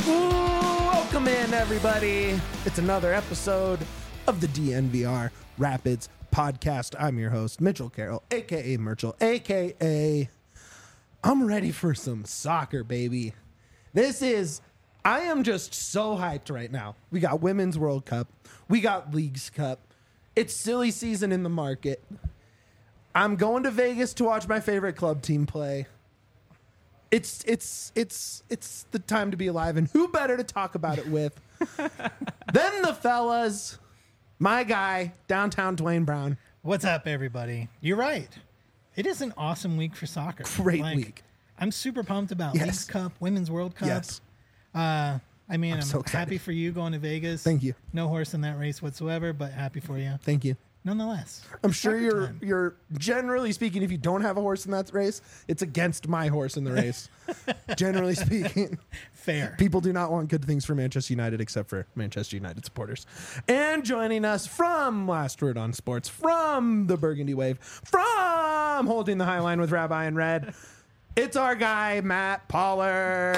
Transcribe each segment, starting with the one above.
Welcome in, everybody. It's another episode of the DNVR Rapids podcast. I'm your host, Mitchell Carroll, a.k.a. Merchel, a.k.a. I'm ready for some soccer, baby. I am just so hyped right now. We got Women's World Cup. We got Leagues Cup. It's silly season in the market. I'm going to Vegas to watch my favorite club team play. It's the time to be alive, and who better to talk about it with than the fellas? My guy, downtown Dwayne Brown. What's up, everybody? You're right. It is an awesome week for soccer. Great week. I'm super pumped about Leagues Cup, Women's World Cup. Yes. I'm so happy for you going to Vegas. Thank you. No horse in that race whatsoever, but happy for you. Thank you. Nonetheless. I'm sure you're generally speaking, if you don't have a horse in that race, it's against my horse in the race. Generally speaking. Fair. People do not want good things for Manchester United except for Manchester United supporters. And joining us from Last Word on Sports, from the Burgundy Wave, from Holding the High Line with Rabbi and Red, it's our guy, Matt Pollard.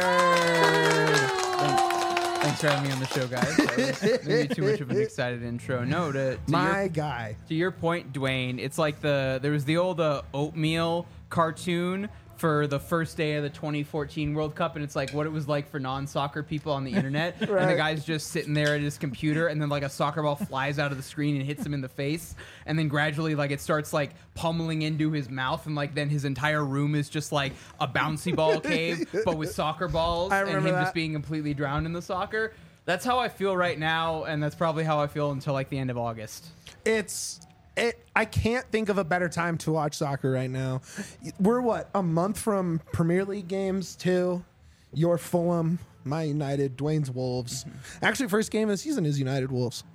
Thanks for having me on the show, guys. That was maybe too much of an excited intro. No, guy. To your point, Dwayne, it's like there was the old oatmeal cartoon for the first day of the 2014 World Cup, and it's like what it was like for non-soccer people on the internet. Right. And the guy's just sitting there at his computer, and then like a soccer ball flies out of the screen and hits him in the face, and then gradually like it starts like pummeling into his mouth, and like then his entire room is just like a bouncy ball cave, but with soccer balls, and him just being completely drowned in the soccer. That's how I feel right now, and that's probably how I feel until like the end of August. I can't think of a better time to watch soccer right now. We're a month from Premier League games too. Your Fulham, my United, Dwayne's Wolves. Mm-hmm. Actually, first game of the season is United Wolves.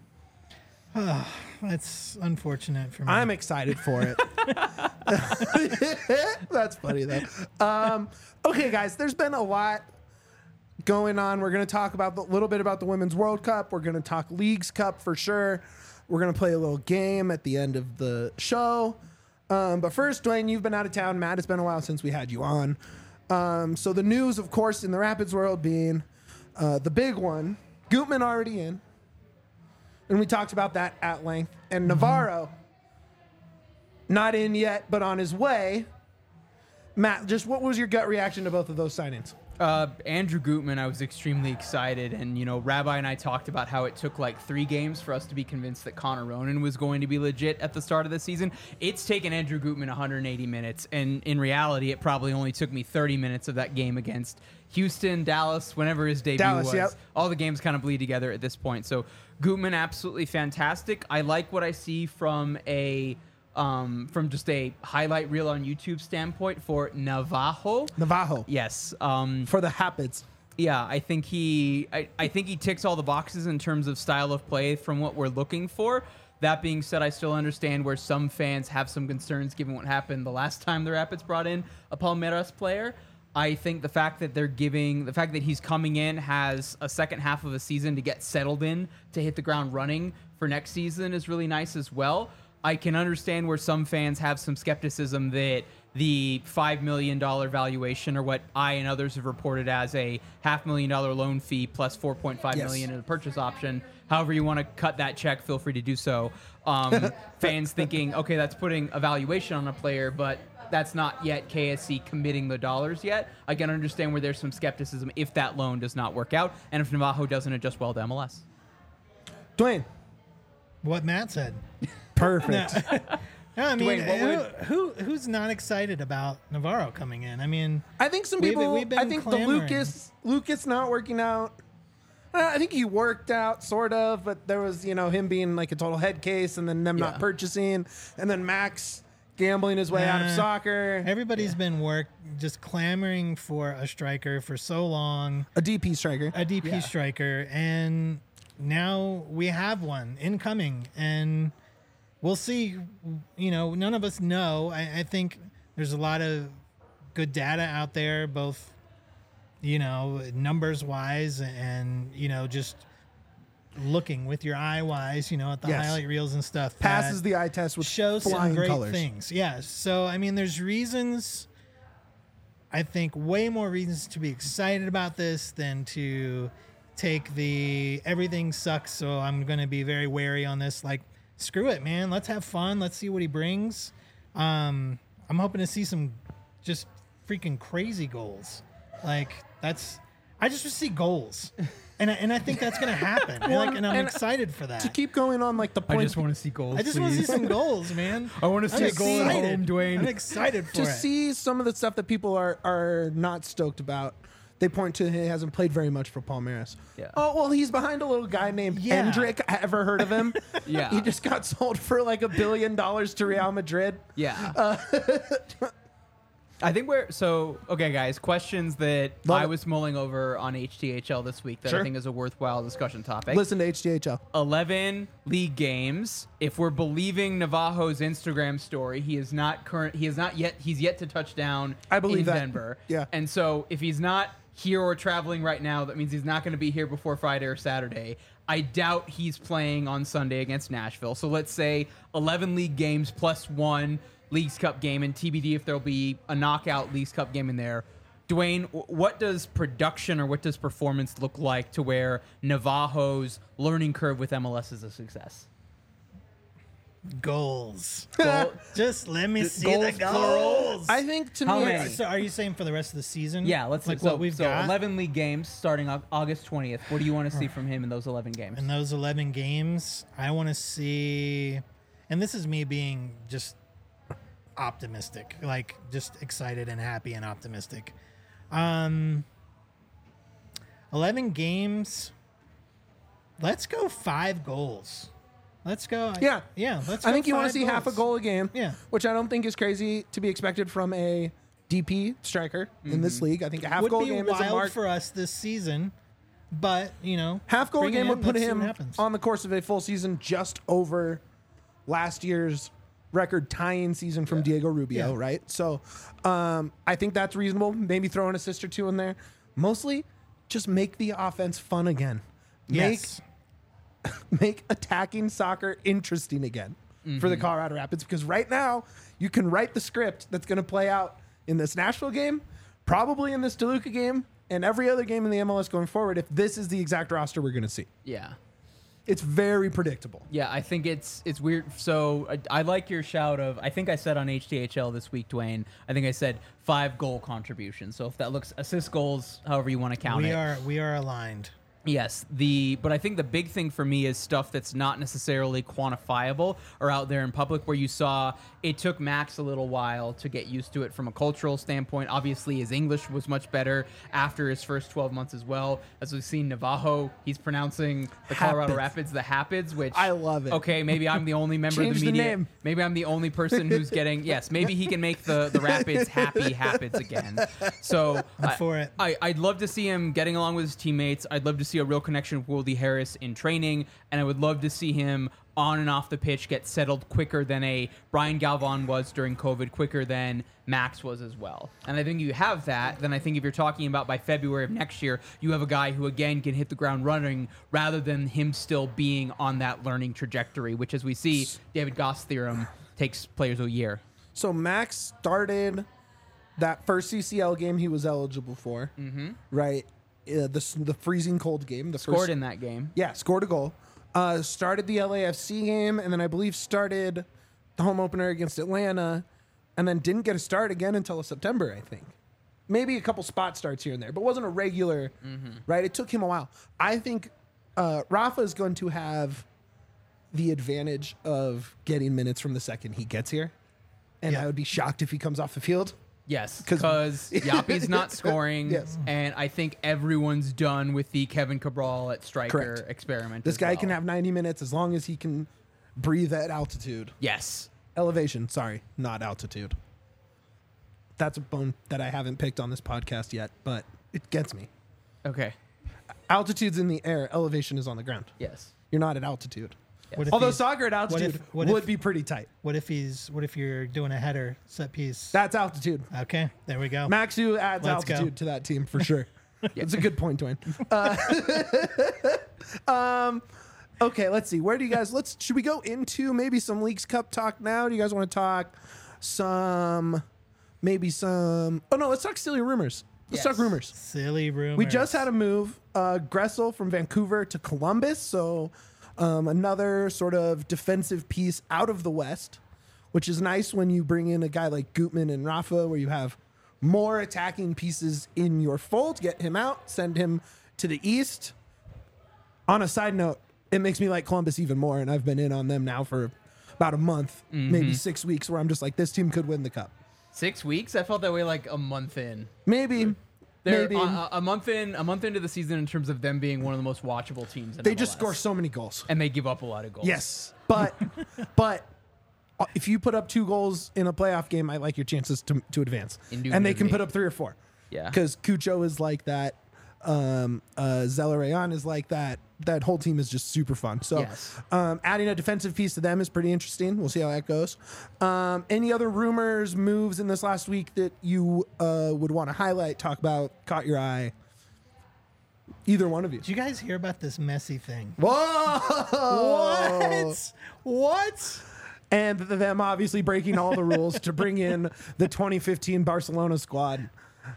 That's unfortunate for me. I'm excited for it. That's funny though. Okay, guys, there's been a lot going on. We're going to talk about a little bit about the Women's World Cup. We're going to talk Leagues Cup for sure. We're going to play a little game at the end of the show. But first, Dwayne, you've been out of town. Matt, it's been a while since we had you on. So the news, of course, in the Rapids world being the big one, Gutman already in. And we talked about that at length. And Navarro, not in yet, but on his way. Matt, just what was your gut reaction to both of those signings? Andrew Gutman, I was extremely excited, and Rabbi and I talked about how it took like 3 games for us to be convinced that Connor Ronan was going to be legit at the start of the season. It's taken Andrew Gutman 180 minutes, and in reality, it probably only took me 30 minutes of that game against Houston, Dallas, whenever his debut was. Yep. All the games kind of bleed together at this point. So Gutman, absolutely fantastic. I like what I see from just a highlight reel on YouTube standpoint for Navajo. Yes. For the Rapids. Yeah, I think he ticks all the boxes in terms of style of play from what we're looking for. That being said, I still understand where some fans have some concerns given what happened the last time the Rapids brought in a Palmeiras player. I think the fact that he's coming in, has a second half of a season to get settled in, to hit the ground running for next season is really nice as well. I can understand where some fans have some skepticism that the $5 million valuation, or what I and others have reported as a $500,000 loan fee plus $4.5 million in a purchase option. However you want to cut that check, feel free to do so. Fans thinking, okay, that's putting a valuation on a player, but that's not yet KSC committing the dollars yet. I can understand where there's some skepticism if that loan does not work out, and if Navajo doesn't adjust well to MLS. Dwayne. What Matt said. Perfect. No, I mean, Dwayne, who's not excited about Navarro coming in? I mean, I think some people. I think clamoring. the Lucas not working out. I think he worked out sort of, but there was him being like a total head case, and then them not purchasing, and then Max gambling his way out of soccer. Everybody's been just clamoring for a striker for so long. A DP striker, and now we have one incoming, and we'll see. None of us know. I think there's a lot of good data out there, both, numbers wise and, just looking with your eye wise, at the highlight reels and stuff. Passes the eye test with shows flying some great colors. things. Yeah. So, I mean, there's reasons I think, way more reasons to be excited about this than to take the everything sucks, so I'm going to be very wary on this. Like, screw it, man. Let's have fun. Let's see what he brings. I'm hoping to see some just freaking crazy goals. Like, I just want to see goals. And I think that's going to happen. And I'm excited for that. To keep going on like the point, I just want to see goals. I just want to see some goals, man. I want to see a goal at home, Dwayne. I'm excited for to it. see some of the stuff that people are not stoked about. They point to he hasn't played very much for Palmeiras. Yeah. Oh, well, he's behind a little guy named Hendrick. Ever heard of him? Yeah. He just got sold for like $1 billion to Real Madrid. Yeah. I think okay, guys, questions that Love I it. was mulling over on HTHL this week that Sure. I think is a worthwhile discussion topic. Listen to HDHL. 11 league games. If we're believing Navajo's Instagram story, he's yet to touch down I believe in that. Denver. Yeah. And so if he's not here or traveling right now, that means he's not going to be here before Friday or Saturday. I doubt he's playing on Sunday against Nashville. So let's say 11 league games plus 1 Leagues Cup game, and TBD if there'll be a knockout Leagues Cup game in there. Dwayne, what does production or what does performance look like to where Navajo's learning curve with MLS is a success? Goals. Goal- Just let me see goals, the plural? goals. I think to How me, many? So are you saying for the rest of the season? Yeah, let's like so, what we've so got 11 league games starting August 20th. What do you want to see from him in those 11 games? in those 11 games. I want to see, and this is me being just optimistic, like just excited and happy and optimistic. 11 games. Let's go 5 goals. Let's go. Yeah. Yeah. Let's. I go think you want to 5 see half a goals. goal a game. Yeah. Which I don't think is crazy to be expected from a DP striker in this league. I think a half Would goal be game is a wild mark. for us this season, but Half goal bring it game in, would put let's see him what happens. on the course of a full season just over last year's record tying season from Diego Rubio, Yeah. right? So I think that's reasonable. Maybe throw in a assist or 2 in there. Mostly just make the offense fun again. Yes. Make attacking soccer interesting again for the Colorado Rapids, because right now you can write the script that's going to play out in this Nashville game, probably in this DeLuca game, and every other game in the MLS going forward if this is the exact roster we're going to see. Yeah. It's very predictable. Yeah, I think it's weird. So I like your shout of, I think I said on HTHL this week, Dwayne, I think I said 5 goal contributions. So if that looks assist goals, however you want to count it. We are aligned. Yes, but I think the big thing for me is stuff that's not necessarily quantifiable or out there in public, where you saw it took Max a little while to get used to it from a cultural standpoint. Obviously, his English was much better after his first 12 months as well. As we've seen Navajo, he's pronouncing the Colorado Rapids the Hapids, which I love it. Okay, maybe I'm the only member of Change the the media. name. Maybe I'm the only person who's getting, yes, maybe he can make the Rapids happy Hapids again. So I'm for it. I'd love to see him getting along with his teammates. I'd love to see a real connection with Wildy Harris in training, and I would love to see him on and off the pitch get settled quicker than a Brian Galvan was during COVID, quicker than Max was as well. And I think you have that. Then I think if you're talking about by February of next year, you have a guy who again can hit the ground running rather than him still being on that learning trajectory, which, as we see, David Goss theorem takes players a year. So Max started that first CCL game he was eligible for, right? The freezing cold game. Scored in that game. Yeah, scored a goal. Started the LAFC game, and then I believe started the home opener against Atlanta, and then didn't get a start again until September, I think. Maybe a couple spot starts here and there, but wasn't a regular, right? It took him a while. I think Rafa is going to have the advantage of getting minutes from the second he gets here, and I would be shocked if he comes off the field. Yes, 'Cause- because Yapi's not scoring, Yes. and I think everyone's done with the Kevin Cabral at striker Correct. experiment. This as guy well. can have 90 minutes as long as he can breathe at altitude. Yes. Elevation, sorry, not altitude. That's a bone that I haven't picked on this podcast yet, but it gets me. Okay. Altitude's in the air, elevation is on the ground. Yes. You're not at altitude. What if Although he's- soccer at altitude what would if- be pretty tight. What if you're doing a header set piece? That's altitude. Okay, there we go. Maxu adds Let's go. altitude to that team for sure. It's a good point, Dwayne. Okay, let's see. Where do you guys? Should we go into maybe some Leagues Cup talk now? Do you guys want to talk some maybe some. Oh no, let's talk silly rumors. Let's talk Yes. rumors. Silly rumors. We just had a move, Gressel from Vancouver to Columbus, so another sort of defensive piece out of the West, which is nice when you bring in a guy like Gutman and Rafa, where you have more attacking pieces in your fold. Get him out, send him to the East. On a side note, it makes me like Columbus even more, and I've been in on them now for about a month, maybe 6 weeks, where I'm just like, this team could win the cup. 6 weeks? I felt that way like a month in. Maybe. They're Maybe. a month into the season in terms of them being one of the most watchable teams in They just MLS. score so many goals. And they give up a lot of goals. Yes, but if you put up 2 goals in a playoff game, I like your chances to advance. And they can put up 3 or 4. Yeah. Because Cucho is like that. Zeller-Rayon is like that. That whole team is just super fun. So Yes. adding a defensive piece to them is pretty interesting. We'll see how that goes. Any other rumors, moves in this last week that you would want to highlight, talk about, caught your eye? Either one of you. Did you guys hear about this Messi thing? Whoa! What? And them obviously breaking all the rules to bring in the 2015 Barcelona squad.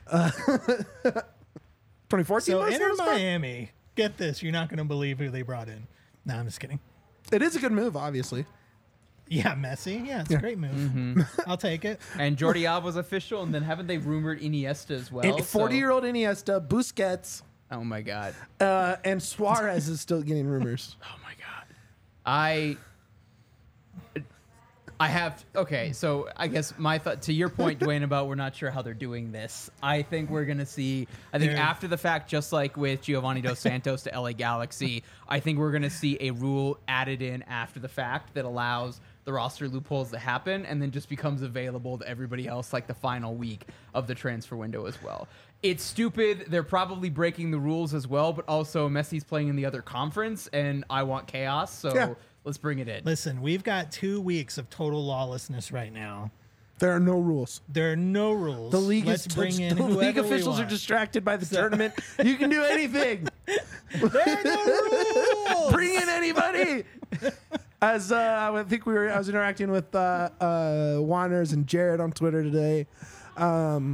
2014 So Barcelona Inter squad? Miami. Get this. You're not going to believe who they brought in. No, I'm just kidding. It is a good move, obviously. Yeah, Messi. Yeah, it's a great move. I'll take it. And Jordi Alba's official, and then haven't they rumored Iniesta as well? 40-year-old Iniesta, Busquets, Oh my god. and Suarez is still getting rumors. Oh my god. I have okay, so I guess my thought to your point, Dwayne, about we're not sure how they're doing this. I think we're gonna see. I think They're- after the fact, just like with Giovanni Dos Santos to LA Galaxy, I think we're gonna see a rule added in after the fact that allows the roster loopholes to happen, and then just becomes available to everybody else like the final week of the transfer window as well. It's stupid. They're probably breaking the rules as well, but also Messi's playing in the other conference, and I want chaos, so. Yeah. Let's bring it in. Listen, we've got 2 weeks of total lawlessness right now. There are no rules. There are no rules. The league Let's is bring in the league whoever we officials are want. distracted by the tournament. You can do anything. There are no rules. Bring in anybody. As I was interacting with Wanners and Jared on Twitter today. Lonas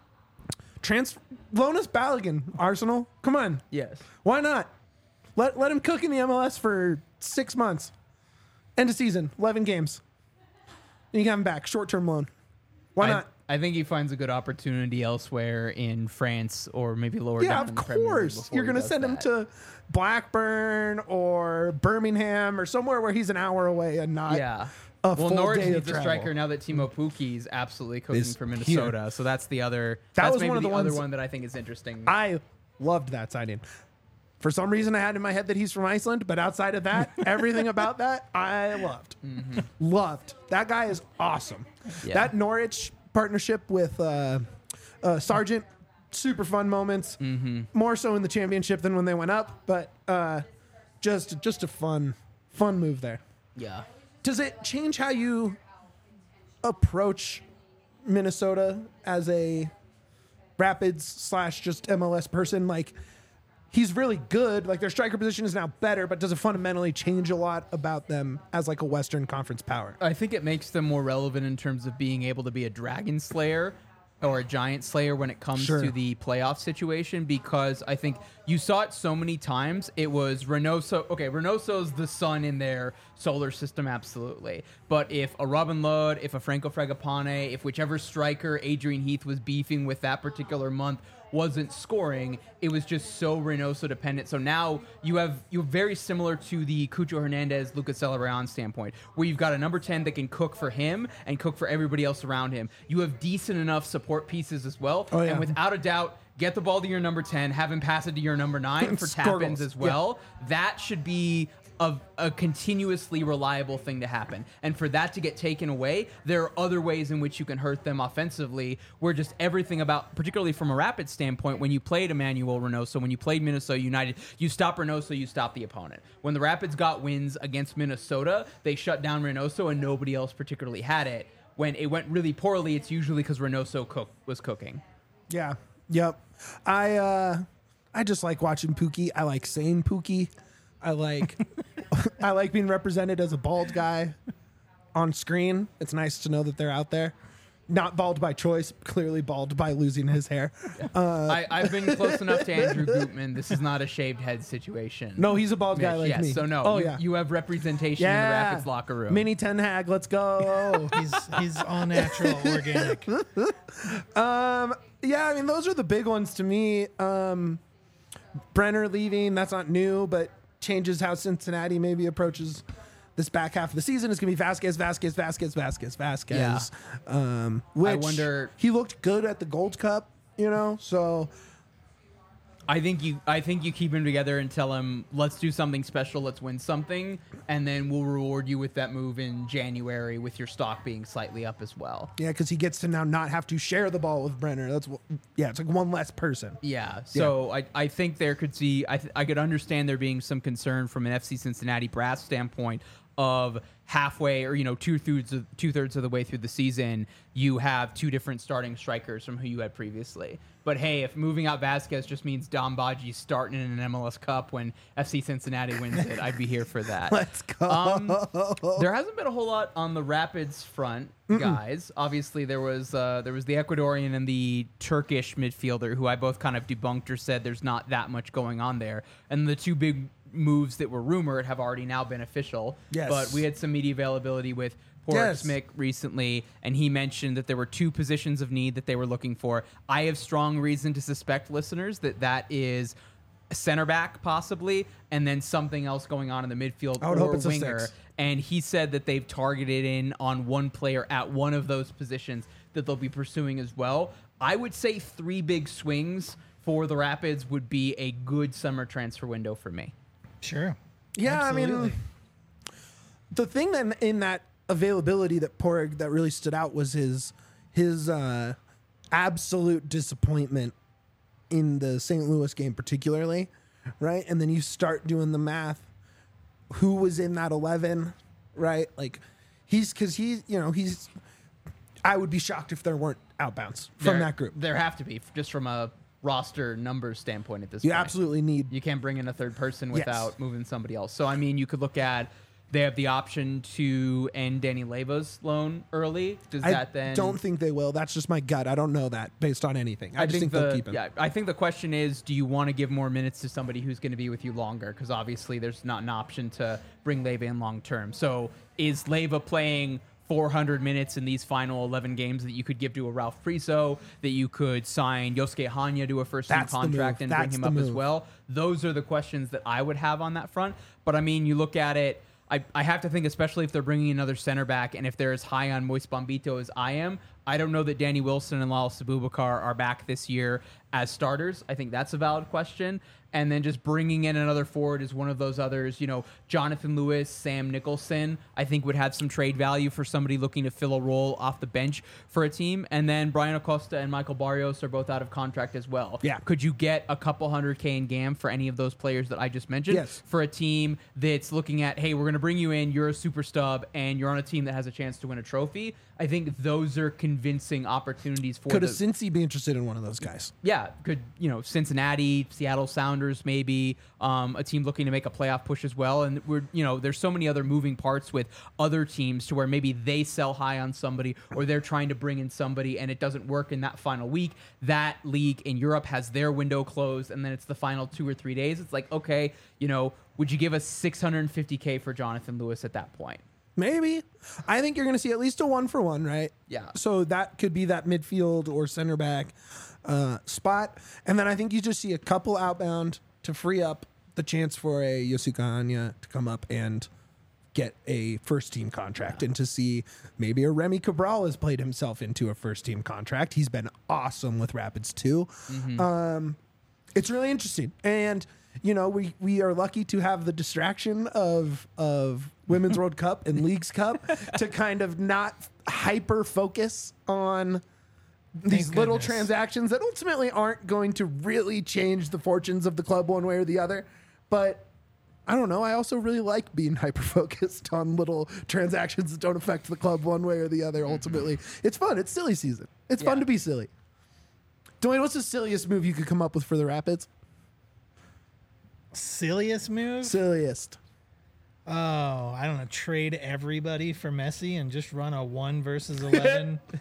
Balogun, Arsenal. Come on, Yes. why not? Let him cook in the MLS for 6 months. End of season, 11 games. And you got him back, short-term loan. Why not? I think he finds a good opportunity elsewhere in France or maybe lower Yeah, down of in the Premier League course. before You're he going to does send him that. to Blackburn or Birmingham or somewhere where he's an hour away and not Yeah. a Well, full Norwich day of needs a travel. striker now that Timo Pukki's absolutely cooking Is for Minnesota. So that's the other. That That's was maybe one of the other ones- one that I think is interesting. I loved that signing. For some reason, I had in my head that he's from Iceland, but outside of that, everything about that, I loved. Loved. That guy is awesome. Yeah. That Norwich partnership with Sargent, super fun moments. More so in the championship than when they went up, but just a fun move there. yeah. Does it change how you approach Minnesota as a Rapids / just MLS person? Like, he's really good. Like, their striker position is now better, but does it fundamentally change a lot about them as like a Western Conference power? I think it makes them more relevant in terms of being able to be a Dragon Slayer or a Giant Slayer when it comes Sure. to the playoff situation, because I think you saw it so many times. It was Reynoso. Okay, Reynoso's the sun in their solar system, absolutely. But if a Robin Lod, if a Franco Fragapane, if whichever striker Adrian Heath was beefing with that particular month wasn't scoring, it was just so Reynoso dependent. So now you're very similar to the Cucho Hernandez, Lucas Zeller-Rayon standpoint, where you've got a number 10 that can cook for him and cook for everybody else around him. You have decent enough support pieces as well. Oh, yeah. And without a doubt, get the ball to your number 10, have him pass it to your number 9 for Score tap-ins goals. as well. That should be a continuously reliable thing to happen. And for that to get taken away, there are other ways in which you can hurt them offensively, where just everything about, particularly from a Rapid standpoint, when you played Emmanuel Reynoso, when you played Minnesota United, you stop Reynoso, you stop the opponent. When the Rapids got wins against Minnesota, they shut down Reynoso and nobody else particularly had it. When it went really poorly, it's usually because Reynoso was cooking. Yeah. Yep. I just like watching Pookie. I like saying Pookie. I like I like being represented as a bald guy on screen. It's nice to know that they're out there. not bald by choice, clearly bald by losing his hair. I've been close enough to Andrew Gutman. This is not a shaved head situation. No, he's a bald guy like yes, me. so no. Oh, you, yeah. you have representation in the Rapids locker room. Mini Ten Hag, let's go. He's all natural, organic. Yeah, I mean, those are the big ones to me. Brenner leaving, that's not new, but changes how Cincinnati maybe approaches this back half of the season. It's going to be Vasquez. Yeah. Which I wonder- he looked good at the Gold Cup, so I think you keep him together and tell him, let's do something special, let's win something, and then we'll reward you with that move in January with your stock being slightly up as well. yeah, because he gets to now not have to share the ball with Brenner. It's like one less person. Yeah, so I think there could see I could understand there being some concern from an FC Cincinnati brass standpoint of halfway or two-thirds of the way through the season you have two different starting strikers from who you had previously. But hey, if moving out Vasquez just means Dom Badji starting in an MLS Cup when FC Cincinnati wins it, I'd be here for that. Let's go. There hasn't been a whole lot on the Rapids front, guys. Obviously, there was the Ecuadorian and the Turkish midfielder who I both kind of debunked or said there's not that much going on there. And the two big moves that were rumored have already now been official. Yes. But we had some media availability with Porek Smith recently, and he mentioned that there were two positions of need that they were looking for. I have strong reason to suspect, listeners, that is a center back possibly, and then something else going on in the midfield I would or hope it's a winger. six. And he said that they've targeted in on one player at one of those positions that they'll be pursuing as well. I would say three big swings for the Rapids would be a good summer transfer window for me. Sure. Yeah, Absolutely. I mean, the thing that in that availability that Poreg that really stood out was his absolute disappointment in the St. Louis game, particularly, right? And then you start doing the math. Who was in that 11, right? Like, he's. I would be shocked if there weren't outbounds from that group. There have to be, just from a roster numbers standpoint at this You point. absolutely need. You can't bring in a third person Yes. without moving somebody else. So, I mean, you could look at they have the option to end Danny Leva's loan early. Does I that then... don't think they will. That's just my gut. I don't know that based on anything. I just think they'll keep him. Yeah, I think the question is, do you want to give more minutes to somebody who's going to be with you longer? Because obviously there's not an option to bring Leva in long term. So is Leva playing 400 minutes in these final 11 games that you could give to a Ralph Priso, that you could sign Yosuke Hanya to a first-team That's the contract move. and bring That's him the up as move. well? Those are the questions that I would have on that front. But, I mean, you look at it, I have to think, especially if they're bringing another center back and if they're as high on Moise Bombito as I am, I don't know that Danny Wilson and Lalo Sabubakar are back this year as starters. I think that's a valid question. And then just bringing in another forward is one of those others. Jonathan Lewis, Sam Nicholson, I think would have some trade value for somebody looking to fill a role off the bench for a team. And then Brian Acosta and Michael Barrios are both out of contract as well. Yeah. Could you get a couple $100K in GAM for any of those players that I just mentioned? Yes. For a team that's looking at, hey, we're going to bring you in, you're a super stub, and you're on a team that has a chance to win a trophy. I think those are convincing opportunities for Could a the... Cincy be interested in one of those guys? Yeah, could Cincinnati, Seattle Sounders, maybe a team looking to make a playoff push as well. And there's so many other moving parts with other teams to where maybe they sell high on somebody or they're trying to bring in somebody and it doesn't work in that final week. That league in Europe has their window closed and then it's the final 2 or 3 days. It's like, okay, would you give us $650K for Jonathan Lewis at that point? Maybe. I think you're going to see at least a 1-for-1, right? Yeah. So that could be that midfield or center back spot. And then I think you just see a couple outbound to free up the chance for a Yosuke Hanya to come up and get a first-team contract and to see maybe a Remy Cabral has played himself into a first-team contract. He's been awesome with Rapids too. It's really interesting. And we are lucky to have the distraction of Women's World Cup and Leagues Cup to kind of not hyper focus on these Thank little goodness. transactions that ultimately aren't going to really change the fortunes of the club one way or the other. But I don't know. I also really like being hyper focused on little transactions that don't affect the club one way or the other. Ultimately, it's fun. It's silly season. It's fun to be silly. Dwayne, what's the silliest move you could come up with for the Rapids? Silliest move? Silliest. Oh, I don't know. Trade everybody for Messi and just run a 1 versus 11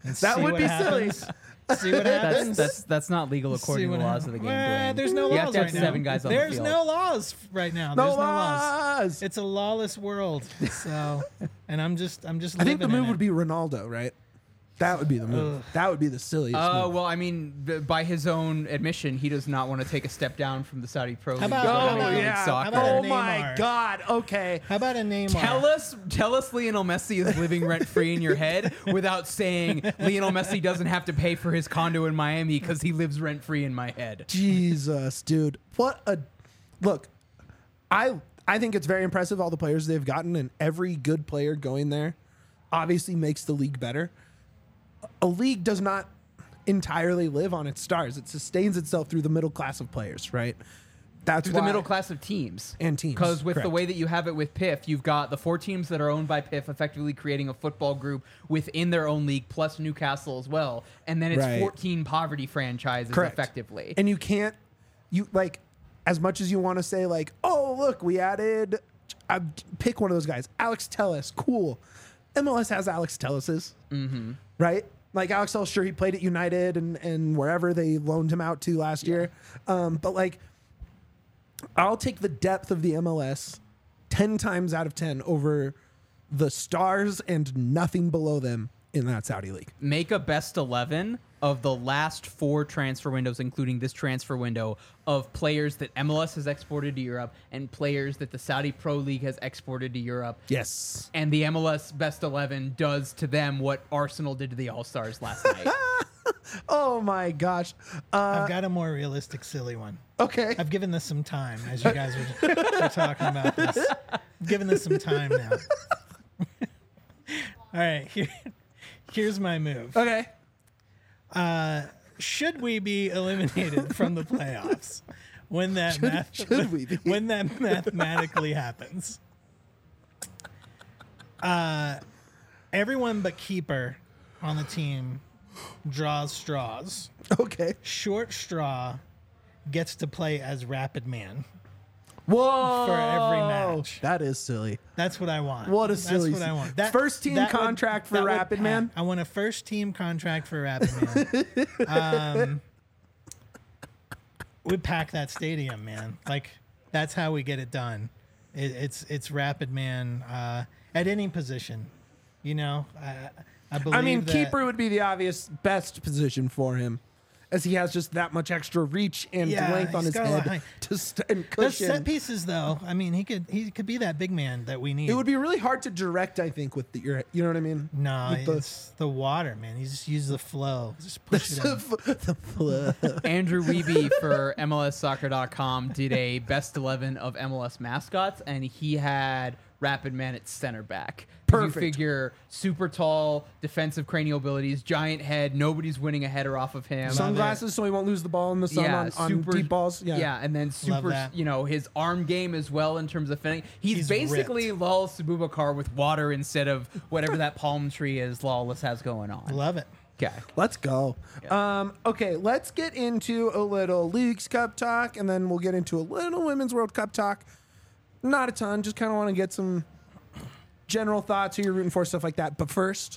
and That see would what be happens. silly. See what happens. That's not legal according to the laws of the game. Glenn. There's no laws You have to have right now. 7 guys on the There's field. no laws right now. No There's no laws. laws. It's a lawless world. So, and I'm just. I think the move would be Ronaldo, right? That would be the move. Ugh. That would be the silliest move. Well, I mean, by his own admission, he does not want to take a step down from the Saudi Pro League. about- to how Major about- League yeah. Soccer. about Oh a my Neymar? God. Okay. How about a Neymar? Tell us Lionel Messi is living rent free in your head without saying Lionel Messi doesn't have to pay for his condo in Miami because he lives rent free in my head. Jesus, dude. What a look. I think it's very impressive all the players they've gotten, and every good player going there obviously makes the league better. A league does not entirely live on its stars. It sustains itself through the middle class of players, right? That's Through why the middle class of teams. And teams, Because with the correct. way that you have it with PIF, you've got the 4 teams that are owned by PIF effectively creating a football group within their own league, plus Newcastle as well. And then it's Right. 14 poverty franchises Correct. effectively. And you can't, as much as you want to say, like, oh, look, we added, pick one of those guys, Alex Telles, cool. MLS has Alex Telles's, right? Like, Alex Telles, sure, he played at United and wherever they loaned him out to last year. But, like, I'll take the depth of the MLS 10 times out of 10 over the stars and nothing below them in that Saudi league. Make a best 11 of the last 4 transfer windows, including this transfer window, of players that MLS has exported to Europe and players that the Saudi Pro League has exported to Europe. Yes. And the MLS best 11 does to them what Arsenal did to the All-Stars last night. Oh, my gosh. I've got a more realistic, silly one. Okay. I've given this some time as you guys were talking about this. I've given this some time now. All right, here's my move. Okay. Should we be eliminated from the playoffs when that should we be? when that mathematically happens? Everyone but keeper on the team draws straws. Okay. Short straw gets to play as Rapid Man. Whoa. For every match. That is silly. That's what I want. What a silly. That's what I want. First team contract for Rapid Man? I want a first team contract for Rapid Man. We pack that stadium, man. Like, that's how we get it done. It's Rapid Man at any position. You know, I believe I mean, that, keeper would be the obvious best position for him, as he has just that much extra reach and Yeah, length on he's his got a lot of head height. and Those cushion. set pieces, though. I mean, he could be that big man that we need. It would be really hard to direct, I think, with you know what I mean? No, With it's the water, man. You just use the flow. Just push it in. the flow. Andrew Wiebe for MLSsoccer.com did a best 11 of MLS mascots, and he had Rapid Man at center back. Perfect. You figure super tall, defensive cranial abilities, giant head, nobody's winning a header off of him. Sunglasses so he won't lose the ball in the sun on deep balls. Yeah. and then super, that. his arm game as well in terms of finishing. He's He's basically Lal Sububakar with water instead of whatever that palm tree is Lawless has going on. Love it. Okay. Let's go. Okay, let's get into a little Leagues Cup talk, and then we'll get into a little Women's World Cup talk. Not a ton, just kind of want to get some general thoughts, who you're rooting for, stuff like that. But first,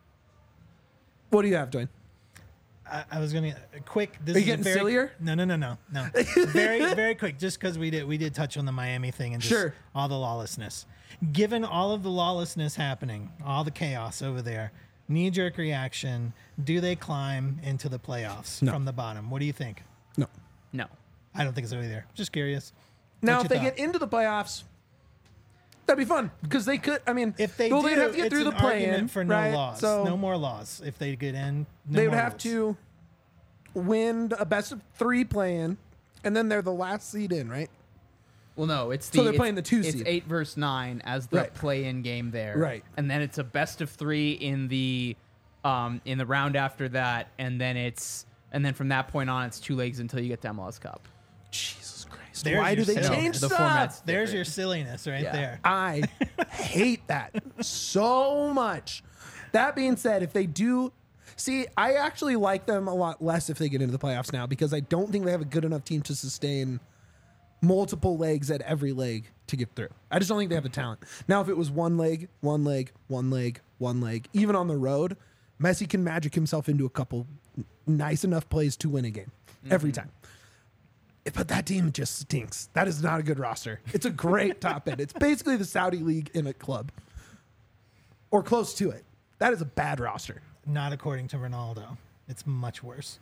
what do you have, Dwayne? I was gonna quick. This Are you is a getting very, sillier? No. Very, very quick. Just because we did touch on the Miami thing and just Sure. all the lawlessness. Given all of the lawlessness happening, all the chaos over there, knee-jerk reaction. Do they climb into the playoffs No. from the bottom? What do you think? No. No. I don't think so either. Just curious. Now, What's if they your get thought? into the playoffs, that'd be fun because they could. I mean, If they well, do, they'd have to get it's through the an play-in argument for no right? laws. So No more laws. If they get in, no they would more have rules. to win a best of 3 play-in, and then they're the last seed in, right? Well, no, it's So they're playing the 2 It's seed. 8 versus 9 as the Right. play-in game there, Right. And then it's a best of 3 in the round after that, and then from that point on, it's 2 legs until you get to MLS Cup. Jesus Christ! There's Why do your they setup. change The stuff? format's There's different. your silliness right Yeah. there. I hate that so much. That being said, if they do, see, I actually like them a lot less if they get into the playoffs now because I don't think they have a good enough team to sustain multiple legs at every leg to get through. I just don't think they have the talent. Now, if it was one leg, even on the road, Messi can magic himself into a couple nice enough plays to win a game every time. But that team just stinks. That is not a good roster. It's a great top end. It's basically the Saudi League in a club or close to it. That is a bad roster. Not according to Ronaldo. It's much worse.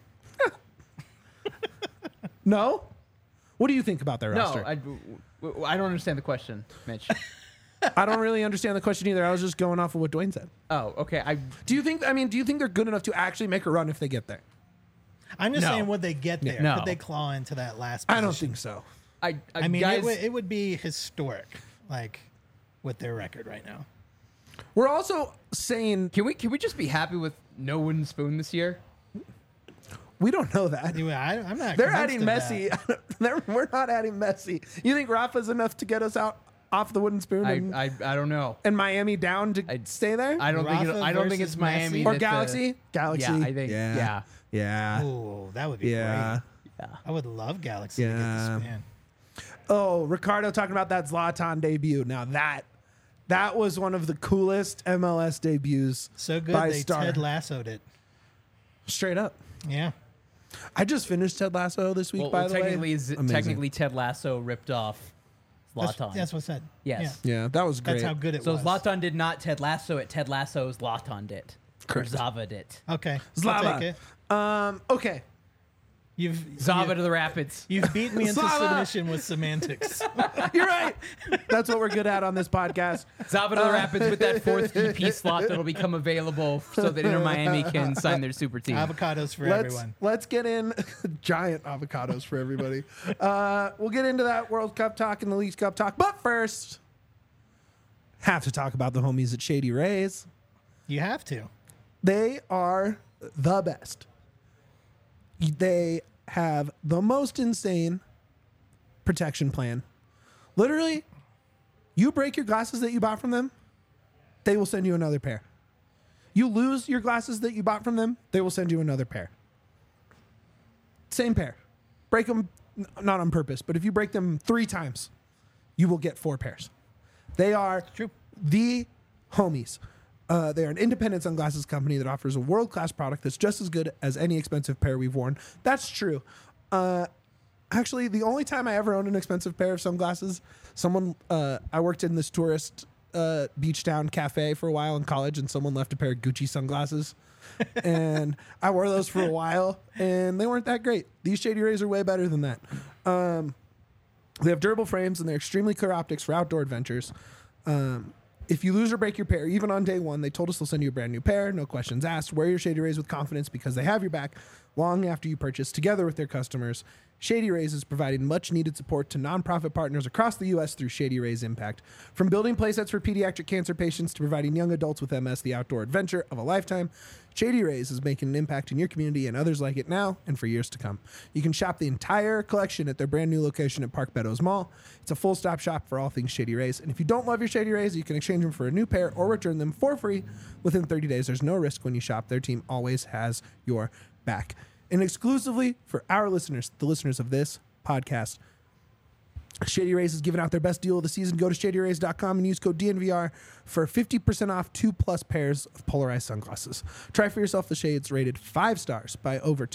No? What do you think about their roster? No, I don't understand the question, Mitch. I don't really understand the question either. I was just going off of what Dwayne said. Oh, okay. Do you think they're good enough to actually make a run if they get there? I'm just No. saying, would they get there? No. Could they claw into that last I position? don't think so. I mean, guys, it would be historic, like, with their record right now. We're also saying can we just be happy with no wooden spoon this year? we don't know that. Anyway, I'm not. They're convinced adding of Messi. We're not adding Messi. You think Rafa's enough to get us out off the wooden spoon I don't know. and Miami down to stay there? I don't think Rafa I don't think versus it's Miami Messi? Or that Galaxy? Galaxy. Yeah, I think. Yeah. Yeah. Ooh, that would be Yeah. great. I would love Galaxy to get Yeah. this man. Oh, Ricardo talking about that Zlatan debut. Now that was one of the coolest MLS debuts. So good by they Star. Ted Lasso'd it. Straight up. Yeah. I just finished Ted Lasso this week, Well, by the way. technically, technically, Ted Lasso ripped off Zlatan. That's what's said. Yes. Yeah, that was great. That's how good it So was. Zlatan did not Ted Lasso it. Ted Lasso Zlatan did. Correct. Or Zava did. Okay. I'll Zlava. take it. Okay. Zava to the Rapids. You've beat me into Slava. submission with semantics. You're right. That's what we're good at on this podcast. Zava to the Rapids with that fourth DP slot that'll become available so that Inter Miami can sign their super team. Avocados for everyone. Let's get in giant avocados for everybody. We'll get into that World Cup talk and the League Cup talk. But first, have to talk about the homies at Shady Rays. You have to. They are the best. They have the most insane protection plan. Literally, you break your glasses that you bought from them, they will send you another pair. You lose your glasses that you bought from them, they will send you another pair. Same pair. Break them, not on purpose, but if you break them 3 times, you will get 4 pairs. They are True. the homies. They are an independent sunglasses company that offers a world-class product that's just as good as any expensive pair we've worn. That's true. Actually, the only time I ever owned an expensive pair of sunglasses, I worked in this tourist beach town cafe for a while in college, and someone left a pair of Gucci sunglasses. And I wore those for a while, and they weren't that great. These Shady Rays are way better than that. They have durable frames, and they're extremely clear optics for outdoor adventures. If you lose or break your pair, even on day one, they told us they'll send you a brand new pair. No questions asked. Wear your Shady Rays with confidence because they have your back long after you purchase. Together with their customers, Shady Rays is providing much needed support to nonprofit partners across the U.S. through Shady Rays Impact. From building playsets for pediatric cancer patients to providing young adults with MS the outdoor adventure of a lifetime, Shady Rays is making an impact in your community and others like it now and for years to come. You can shop the entire collection at their brand new location at Park Meadows Mall. It's a full-stop shop for all things Shady Rays. And if you don't love your Shady Rays, you can exchange them for a new pair or return them for free within 30 days. There's no risk when you shop. Their team always has your back. And exclusively for our listeners, the listeners of this podcast, Shady Rays is giving out their best deal of the season. Go to shadyrays.com and use code DNVR for 50% off 2+ pairs of polarized sunglasses. Try for yourself the shades rated 5 stars by over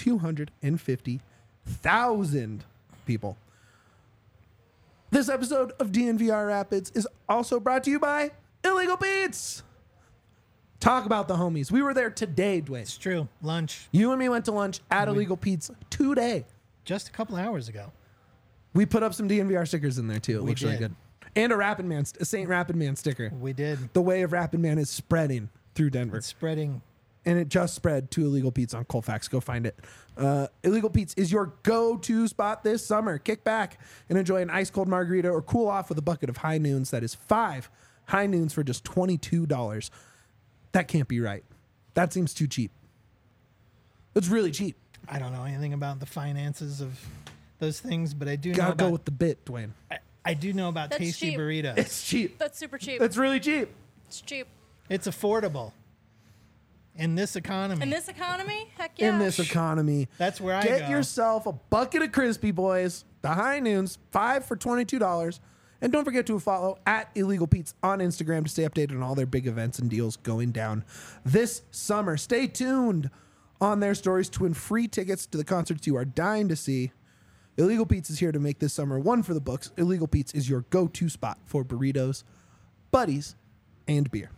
250,000 people. This episode of DNVR Rapids is also brought to you by Illegal Beats. Talk about the homies. We were there today, Dwayne. It's true. Lunch You and me went to lunch at Illegal Pete's today. just a couple hours ago. We put up some DNVR stickers in there too. It looks really did. good. And a St. Rapid Man sticker. We did. The way of Rapid Man is spreading through Denver. It's spreading. And it just spread to Illegal Pete's on Colfax. Go find it. Illegal Pete's is your go-to spot this summer. Kick back and enjoy an ice-cold margarita or cool off with a bucket of High Noons. That is 5 High Noons for just $22. That can't be right. That seems too cheap. It's really cheap. I don't know anything about the finances of those things, but I do know Gotta about, go with the bit, Dwayne. I do know about That's tasty cheap. burritos. It's cheap. That's super cheap. It's really cheap. It's cheap. It's affordable. In this economy. In this economy, heck yeah. In this economy. That's where I Get go. yourself a bucket of Crispy Boys, the High Noons, 5 for $22, And don't forget to follow at Illegal Pete's on Instagram to stay updated on all their big events and deals going down this summer. Stay tuned on their stories to win free tickets to the concerts you are dying to see. Illegal Pete's is here to make this summer one for the books. Illegal Pete's is your go-to spot for burritos, buddies, and beer.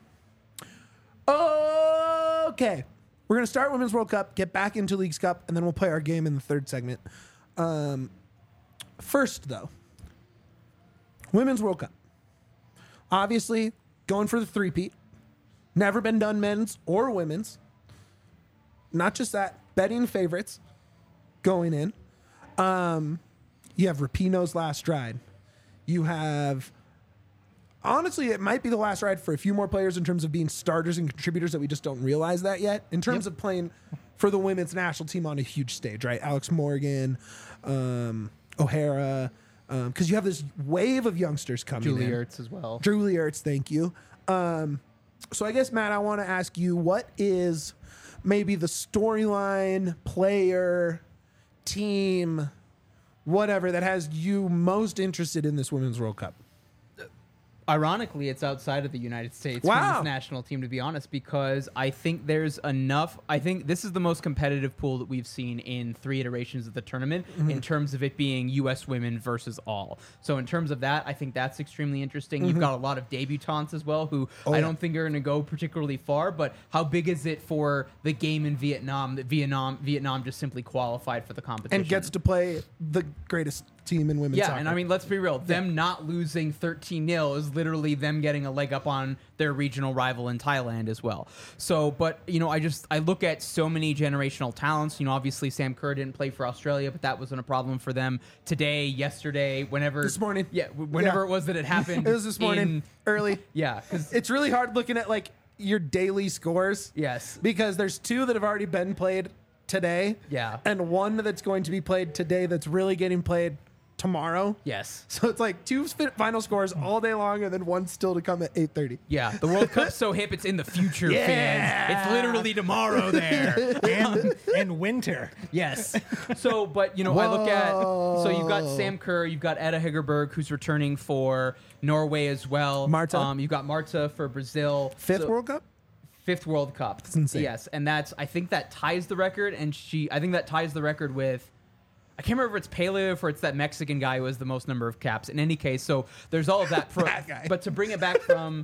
Okay. We're going to start Women's World Cup, get back into Leagues Cup, and then we'll play our game in the third segment. First, though, Women's World Cup. Obviously, going for the three-peat. Never been done men's or women's. Not just that, betting favorites going in. You have Rapinoe's last ride. You have, honestly, it might be the last ride for a few more players in terms of being starters and contributors that we just don't realize that yet. In terms of playing for the women's national team on a huge stage, right? Alex Morgan, O'Hara, because you have this wave of youngsters coming in. Julie Ertz as well. Julie Ertz, thank you. So I guess, Matt, I want to ask you, what is maybe the storyline, player, team, whatever, that has you most interested in this Women's World Cup? Ironically, it's outside of the United States Wow. women's national team, to be honest, because I think there's enough. I think this is the most competitive pool that we've seen in 3 iterations of the tournament in terms of it being U.S. women versus all. So in terms of that, I think that's extremely interesting. You've got a lot of debutantes as well who I don't think are going to go particularly far, but how big is it for the game in Vietnam that Vietnam just simply qualified for the competition? And gets to play the greatest team in women's soccer. And I mean, let's be real. Them not losing 13-0 is literally them getting a leg up on their regional rival in Thailand as well. So, but, I look at so many generational talents. Obviously Sam Kerr didn't play for Australia, but that wasn't a problem for them today, yesterday, whenever. This morning. Yeah, whenever it was that it happened. It was this morning, early. Yeah, because It's really hard looking at, your daily scores. Yes. Because there's 2 that have already been played today. Yeah. And 1 that's going to be played today that's really getting played tomorrow. Yes. So it's 2 final scores all day long, and then 1 still to come at 8:30. Yeah, the World Cup's so hip, it's in the future, fans. It's literally tomorrow there. and winter. Yes. So, but, I look at, so you've got Sam Kerr, you've got Edda Hegerberg, who's returning for Norway as well. Marta. You've got Marta for Brazil. 5th World Cup? 5th World Cup. That's insane. Yes, and I think that ties the record, and I think that ties the record with, I can't remember if it's Pele or it's that Mexican guy who has the most number of caps. In any case, so there's all of that. That guy. But to bring it back from,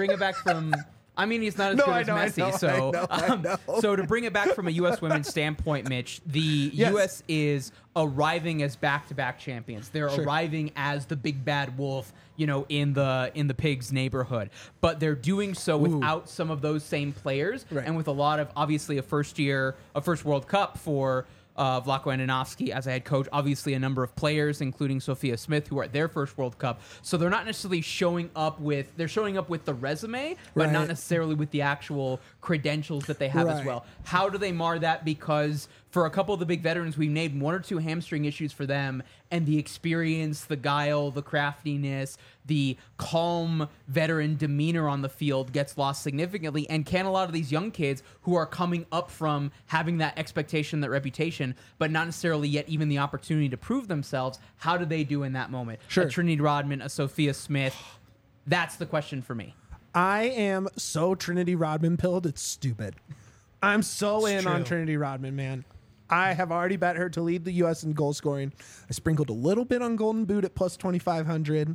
I mean, he's not as good as Messi. I know. So to bring it back from a U.S. women's standpoint, Mitch, the U.S. is arriving as back-to-back champions. They're arriving as the big bad wolf, in the pigs neighborhood. But they're doing so without some of those same players, and with a lot of, obviously, a first World Cup for Vlatko Andonovski as a head coach, obviously a number of players, including Sophia Smith, who are at their first World Cup. So they're not necessarily showing up with the resume, but not necessarily with the actual credentials that they have as well. How do they mar that? Because for a couple of the big veterans, we named 1 or 2 hamstring issues for them, and the experience, the guile, the craftiness, the calm veteran demeanor on the field gets lost significantly. And can a lot of these young kids who are coming up from having that expectation, that reputation, but not necessarily yet even the opportunity to prove themselves, how do they do in that moment? Sure. A Trinity Rodman, a Sophia Smith, that's the question for me. I am so Trinity Rodman pilled, it's stupid. I'm so It's in on true. Trinity Rodman, man. I have already bet her to lead the U.S. in goal scoring. I sprinkled a little bit on Golden Boot at plus 2,500.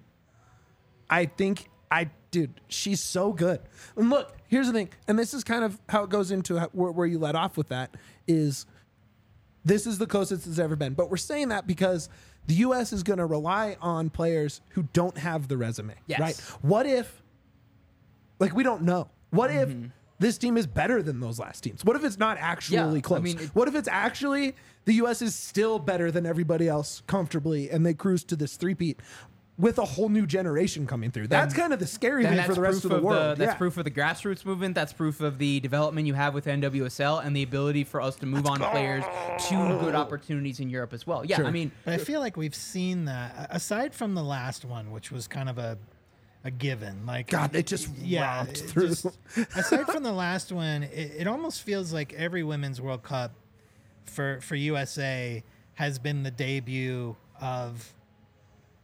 Dude, she's so good. And look, here's the thing, and this is kind of how it goes into where you let off with that, is this is the closest it's ever been. But we're saying that because the U.S. is going to rely on players who don't have the resume, Yes. right? What if, we don't know. What if this team is better than those last teams? What if it's not actually close? I mean, What if it's actually the U.S. is still better than everybody else comfortably, and they cruise to this three-peat with a whole new generation coming through? That's kind of the scary thing for the rest of the world. That's proof of the grassroots movement. That's proof of the development you have with NWSL and the ability for us to move on players to good opportunities in Europe as well. Yeah, Sure. I mean, But I feel like we've seen that, aside from the last one, which was kind of a given. God, they just romped it through. aside from the last one, it almost feels like every Women's World Cup for USA has been the debut of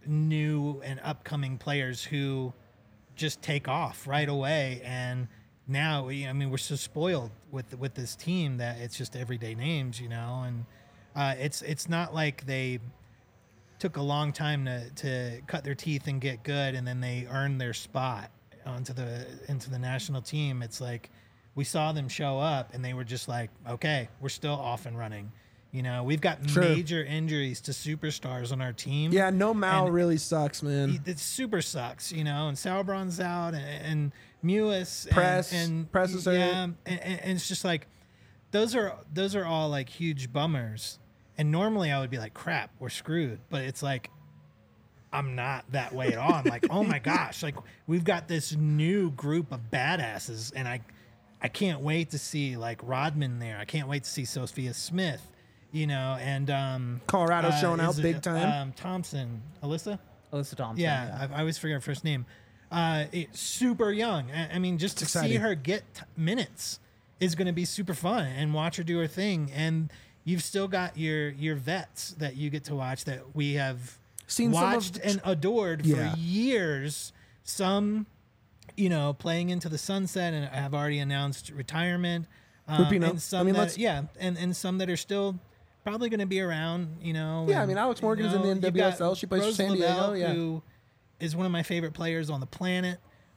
new and upcoming players who just take off right away. And now, I mean, we're so spoiled with this team that it's just everyday names, and it's not like they took a long time to cut their teeth and get good, and then they earned their spot into the national team. It's like we saw them show up, and they were just like, okay, we're still off and running. We've got major injuries to superstars on our team. Yeah, no Mao really sucks, man. It super sucks, and Sauerbrann's out, and Mewis, Press is hurt. yeah, and it's just like those are all like huge bummers. And normally I would be like, crap, we're screwed. But it's like, I'm not that way at all. I'm like, oh my gosh, like we've got this new group of badasses, and I can't wait to see like Rodman there. I can't wait to see Sophia Smith, and Colorado showing out big time. Thompson, Alyssa Thompson. Yeah, I always forget her first name. Super young. I mean, just to see her get minutes is going to be super fun, and watch her do her thing. And you've still got your vets that you get to watch that we have Seen watched some of and adored for years. Some, playing into the sunset and have already announced retirement. And some and some that are still probably going to be around. Yeah, I mean, Alex Morgan's in the NWSL. She plays for San Diego. Yeah, who is one of my favorite players on the planet.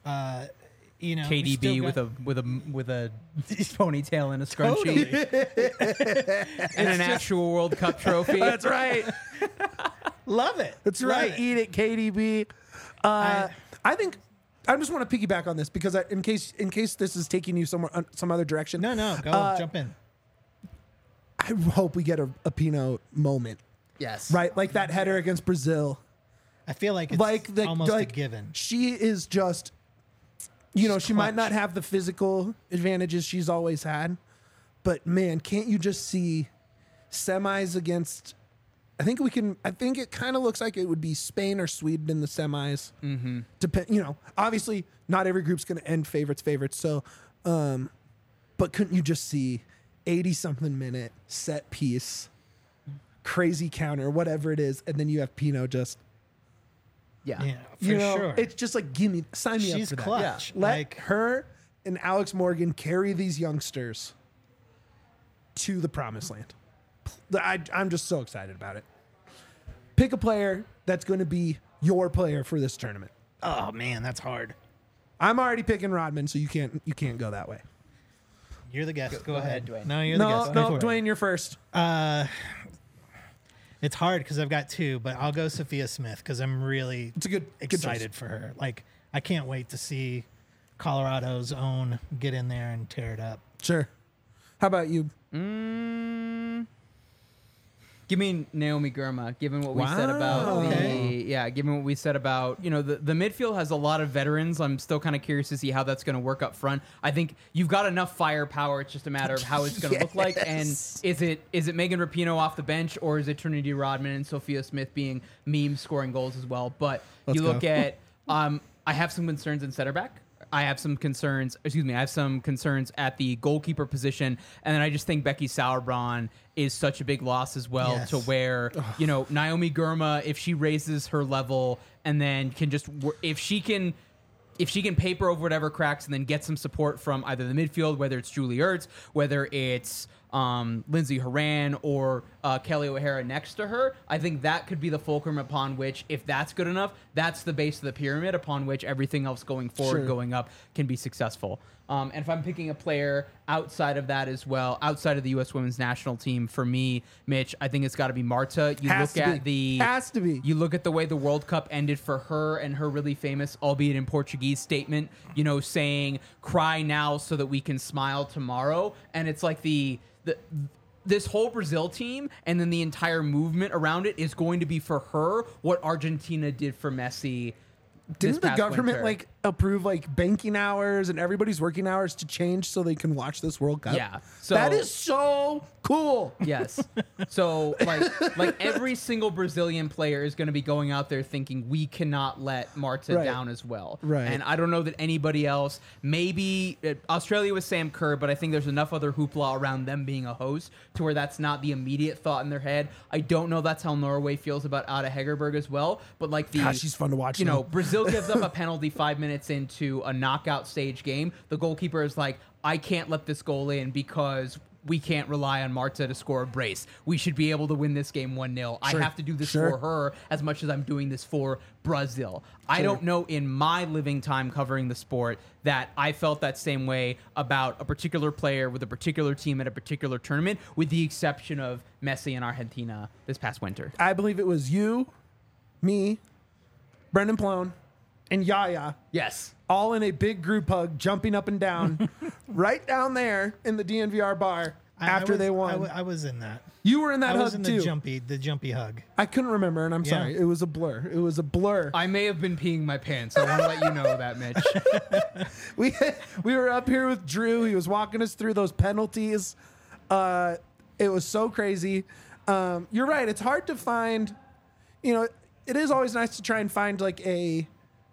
KDB with a ponytail and a scrunchie and an actual World Cup trophy. That's right. Love it. That's right. Eat it, KDB. I think I just want to piggyback on this because in case this is taking you somewhere some other direction. No, go jump in. I hope we get a Pino moment. Yes. Right, like that header against Brazil. I feel like it's almost a given. She is just. She might not have the physical advantages she's always had, but man, can't you just see semis against? I think it kind of looks like it would be Spain or Sweden in the semis. Mm-hmm. Obviously not every group's going to end favorites. So, but couldn't you just see 80-something minute set piece, crazy counter, whatever it is, and then you have Pino just. Yeah, for sure. It's just like, sign me up for that. She's clutch. Yeah. Let her and Alex Morgan carry these youngsters to the promised land. I'm just so excited about it. Pick a player that's going to be your player for this tournament. Oh man, that's hard. I'm already picking Rodman, so you can't go that way. You're the guest. Go ahead, Dwayne. No, you're the guest. No, Dwayne, you're first. It's hard because I've got two, but I'll go Sophia Smith because I'm really excited choice. for her. Like, I can't wait to see Colorado's own get in there and tear it up. Sure. How about you? Give me Naomi Girma, given what we said about given what we said about, the midfield has a lot of veterans. I'm still kind of curious to see how that's going to work up front. I think you've got enough firepower. It's just a matter of how it's going to look like. And is it Megan Rapinoe off the bench, or is it Trinity Rodman and Sophia Smith being memes scoring goals as well? But look at, I have some concerns in center back. I have some concerns at the goalkeeper position, and then I just think Becky Sauerbrann is such a big loss as well. To where Naomi Girma, if she raises her level and then can just if she can paper over whatever cracks and then get some support from either the midfield, whether it's Julie Ertz, whether it's Lindsay Horan or Kelly O'Hara next to her, I think that could be the fulcrum upon which, if that's good enough, that's the base of the pyramid upon which everything else going forward, going up, can be successful. And if I'm picking a player outside of that as well, outside of the U.S. women's national team, for me, Mitch, I think it's got to be Marta. Has to be. You look at the way the World Cup ended for her and her really famous, albeit in Portuguese, statement, saying, "Cry now so that we can smile tomorrow." And it's like this whole Brazil team and then the entire movement around it is going to be for her what Argentina did for Messi. Didn't the government approve like banking hours and everybody's working hours to change so they can watch this World Cup. Yeah. So that is so cool. Yes. So like every single Brazilian player is going to be going out there thinking we cannot let Marta Right. down as well. Right. And I don't know that anybody else, maybe Australia with Sam Kerr, but I think there's enough other hoopla around them being a host to where that's not the immediate thought in their head. I don't know that's how Norway feels about Ada Hegerberg as well, but like Gosh, she's fun to watch. you know, though. Brazil gives up a penalty 5 minutes into a knockout stage game. The goalkeeper is like, I can't let this goal in because we can't rely on Marta to score a brace. We should be able to win this game 1-0. I have to do this Sure. for her as much as I'm doing this for Brazil. I don't know in my living time covering the sport that I felt that same way about a particular player with a particular team at a particular tournament, with the exception of Messi and Argentina this past winter. I believe it was you, me, Brendan Plone, and Yaya, Yes. all in a big group hug, jumping up and down, right down there in the DNVR bar after they won. I was in that. You were in that I hug was in too. the jumpy hug. I couldn't remember, and I'm Yeah. sorry. It was a blur. It was a blur. I may have been peeing my pants. I want to let you know that, Mitch. We were up here with Drew. He was walking us through those penalties. It was so crazy. You're right. It's hard to find. You know, it is always nice to try and find like a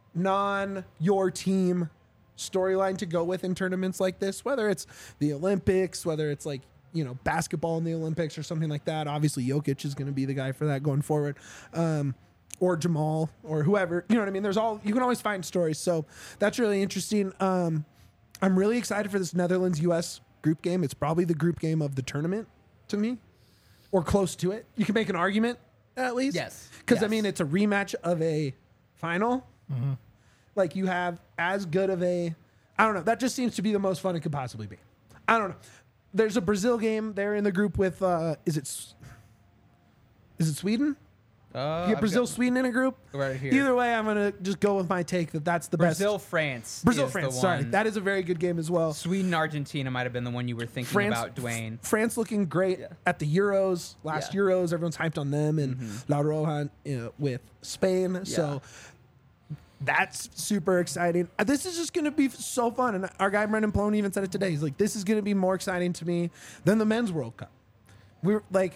your team storyline to go with in tournaments like this, whether it's the Olympics, whether it's like, you know, basketball in the Olympics or something like that. Obviously Jokic is going to be the guy for that going forward. Or Jamal or whoever, you know what I mean? You can always find stories. So that's really interesting. I'm really excited for this Netherlands US group game. It's probably the group game of the tournament to me, or close to it. You can make an argument at least. Yes. Because I Yes. mean, it's a rematch of a final. Like you have as good of a, I don't know. That just seems to be the most fun it could possibly be. I don't know. There's a Brazil game. They're in the group with, is it Sweden? You get Brazil, Sweden in a group. Right here. Either way, I'm gonna just go with my take that's the Brazil, best. France. Brazil, is France. the Sorry, one. that is a very good game as well. Sweden, Argentina might have been the one you were thinking France, about, Dwayne. France looking great at the Euros. Last Yeah. Euros, everyone's hyped on them, and La Roja with Spain. So that's super exciting. This is just going to be so fun. And our guy Brendan Plone even said it today. He's like, this is going to be more exciting to me than the men's World Cup. We're like,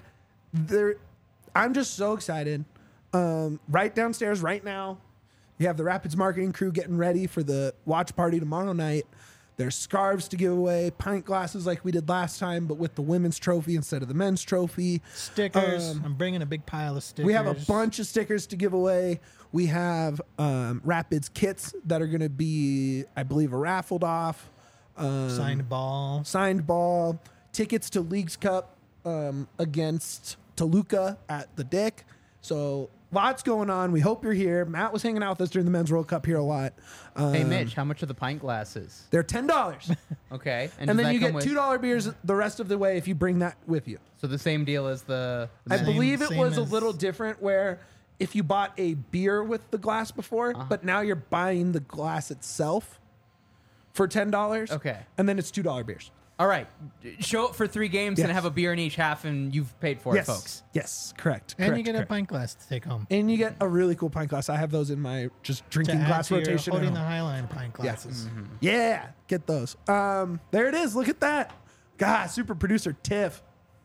I'm just so excited. Right downstairs right now, you have the Rapids marketing crew getting ready for the watch party tomorrow night. There's scarves to give away, pint glasses like we did last time, but with the women's trophy instead of the men's trophy. Stickers. I'm bringing a big pile of stickers. We have a bunch of stickers to give away. We have Rapids kits that are going to be, I believe, raffled off. signed ball. Tickets to Leagues Cup against Toluca at the Dick. So lots going on. We hope you're here. Matt was hanging out with us during the Men's World Cup here a lot. Hey, Mitch, how much are the pint glasses? They're $10. Okay. And does then that you come get with- $2 beers the rest of the way if you bring that with you. So the same deal as the I Same- believe it same was a as- little different where if you bought a beer with the glass before, but now you're buying the glass itself for $10. Okay. And then it's $2 beers. All right. Show up for 3 games and Yes. have a beer in each half, and you've paid for Yes. it, folks. Yes, correct. And correct, you get correct. a pint glass to take home. And you get a really cool pint glass. I have those in my just To drinking add glass to your rotation. at holding the home. Highline pint glasses. Yeah, get those. There it is. Look at that. God, super producer Tiff.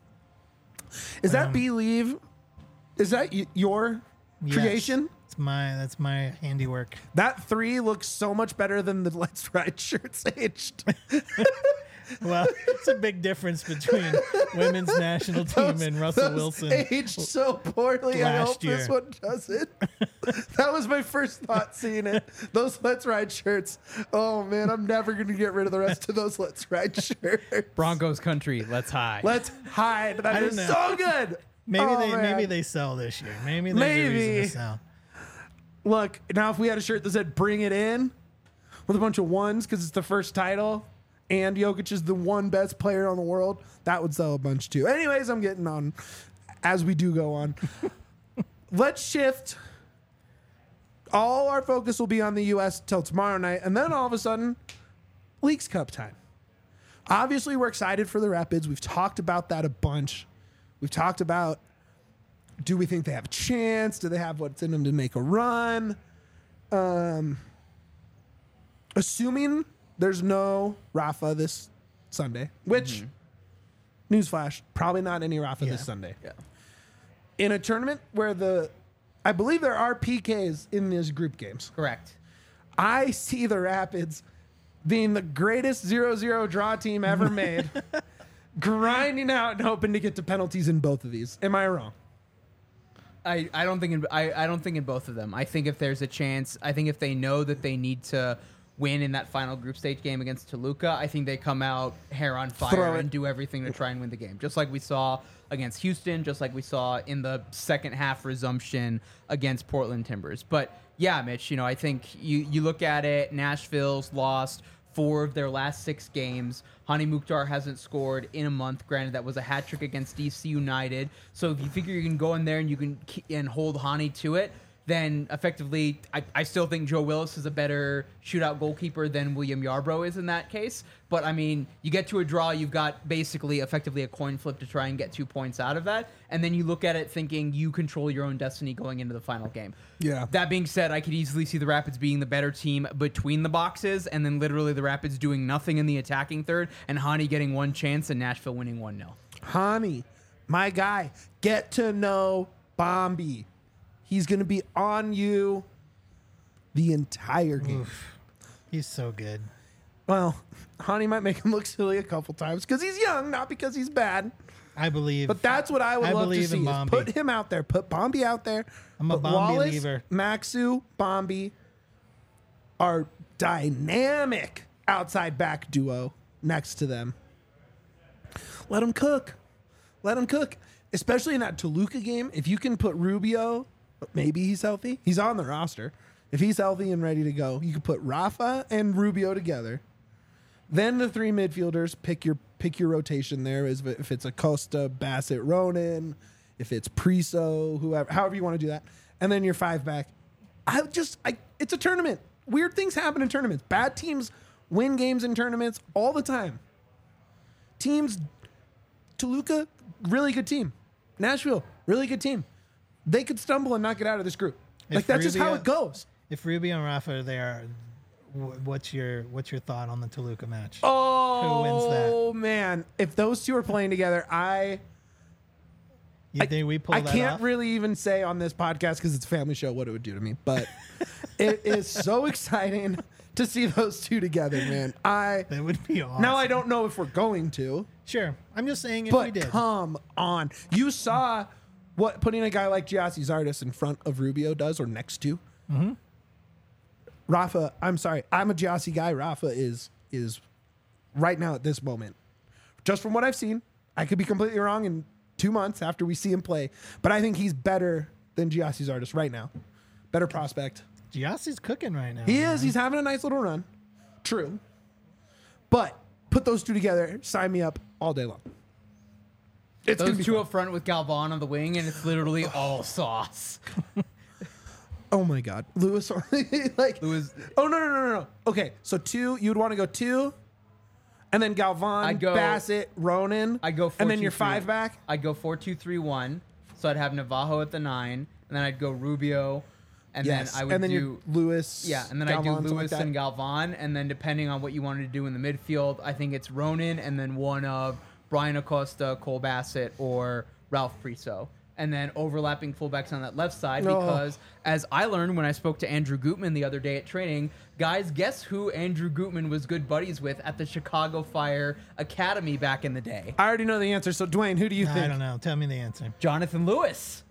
Is that Believe? Is that your Yes. creation? That's my handiwork. That 3 looks so much better than the Let's Ride shirts aged. Well, it's a big difference between women's national team and Russell Those Wilson. aged so poorly. I last hope this year. one doesn't. That was my first thought seeing it. Those Let's Ride shirts. Oh man, I'm never gonna get rid of the rest of those Let's Ride shirts. Broncos country, let's hide. Let's hide. That don't is know. so good. Maybe Oh, maybe man. they sell this year. Maybe there's a reason Maybe. to sell. Look, now if we had a shirt that said "Bring It In" with a bunch of ones because it's the first title, and Jokic is the one best player on the world, that would sell a bunch too. Anyways, I'm getting on as we do go on. Let's shift. All our focus will be on the U.S. till tomorrow night, and then all of a sudden, Leagues Cup time. Obviously, we're excited for the Rapids. We've talked about that a bunch. We've talked about, do we think they have a chance? Do they have what's in them to make a run? assuming there's no Rafa this Sunday, which, newsflash, probably not any Rafa this Sunday. Yeah. In a tournament where I believe there are PKs in these group games. Correct. I see the Rapids being the greatest 0-0 draw team ever made, grinding out and hoping to get to penalties in both of these. Am I wrong? I don't think I don't think in both of them. I think if there's a chance, I think if they know that they need to win in that final group stage game against Toluca, I think they come out hair on fire and do everything to try and win the game. Just like we saw against Houston, just like we saw in the second half resumption against Portland Timbers. But yeah, Mitch, I think you look at it, Nashville's lost 4 of their last 6 games. Hani Mukhtar hasn't scored in a month. Granted, that was a hat trick against DC United. So if you figure you can go in there and you can hold Hani to it, then effectively, I still think Joe Willis is a better shootout goalkeeper than William Yarbrough is in that case. But, I mean, you get to a draw, you've got basically effectively a coin flip to try and get 2 points out of that. And then you look at it thinking you control your own destiny going into the final game. Yeah. That being said, I could easily see the Rapids being the better team between the boxes and then literally the Rapids doing nothing in the attacking third and Hani getting 1 chance and Nashville winning 1-0. Hani, my guy, get to know Bombi. He's going to be on you the entire game. Oof. He's so good. Well, Hani might make him look silly a couple times because he's young, not because he's bad. I believe. But that's what I would love to believe see. in Is Bombi. put him out there. Put Bombi out there. I'm a But Bombi Wallace, leaver. Maxu, Bombi are dynamic outside back duo next to them. Let them cook. Let them cook. Especially in that Toluca game. If you can put Rubio, maybe he's healthy. He's on the roster. If he's healthy and ready to go, you can put Rafa and Rubio together. Then the 3 midfielders, pick your rotation there. If it's Acosta, Bassett, Ronan, if it's Priso, whoever, however you want to do that. And then your 5 back. It's a tournament. Weird things happen in tournaments. Bad teams win games in tournaments all the time. Toluca, really good team. Nashville, really good team. They could stumble and not get out of this group. That's just how it goes. If Rubio and Rafa are there, what's your thought on the Toluca match? Oh, Who wins that? Man. If those two are playing together, You think we pull I that can't off? really even say on this podcast because it's a family show what it would do to me. But it is so exciting to see those two together, man. That would be awesome. Now I don't know if we're going to. Sure. I'm just saying if we But did. come on. You saw what putting a guy like Giassi Zardes in front of Rubio does or next to. Mm-hmm. Rafa, I'm sorry. I'm a Giassi guy. Rafa is right now at this moment. Just from what I've seen, I could be completely wrong in 2 months after we see him play. But I think he's better than Giassi Zardes right now. Better prospect. Giassi's cooking right now. He man. is. He's having a nice little run. True. But put those two together. Sign me up all day long. It's gonna Those be two fun. up front with Galvan on the wing, and it's literally all sauce. Oh my God, Lewis. Lewis- Oh no. Okay, so 2. You would want to go 2, and then Galvan, I'd go- Bassett, Ronan. I'd go 4-2-3. and then your 5 back. I'd go 4-2-3-1. So I'd have Navajo at the 9, and then I'd go Rubio, and Yes, then I would and then do your Lewis. yeah, and then I'd do Galvan, something Lewis like that. and Galvan, and then depending on what you wanted to do in the midfield, I think it's Ronan, and then one of Brian Acosta, Cole Bassett, or Ralph Priso. And then overlapping fullbacks on that left side No. because, as I learned when I spoke to Andrew Gutman the other day at training, guys, guess who Andrew Gutman was good buddies with at the Chicago Fire Academy back in the day? I already know the answer. So Dwayne, who do you I think? don't know. Tell me the answer. Jonathan Lewis.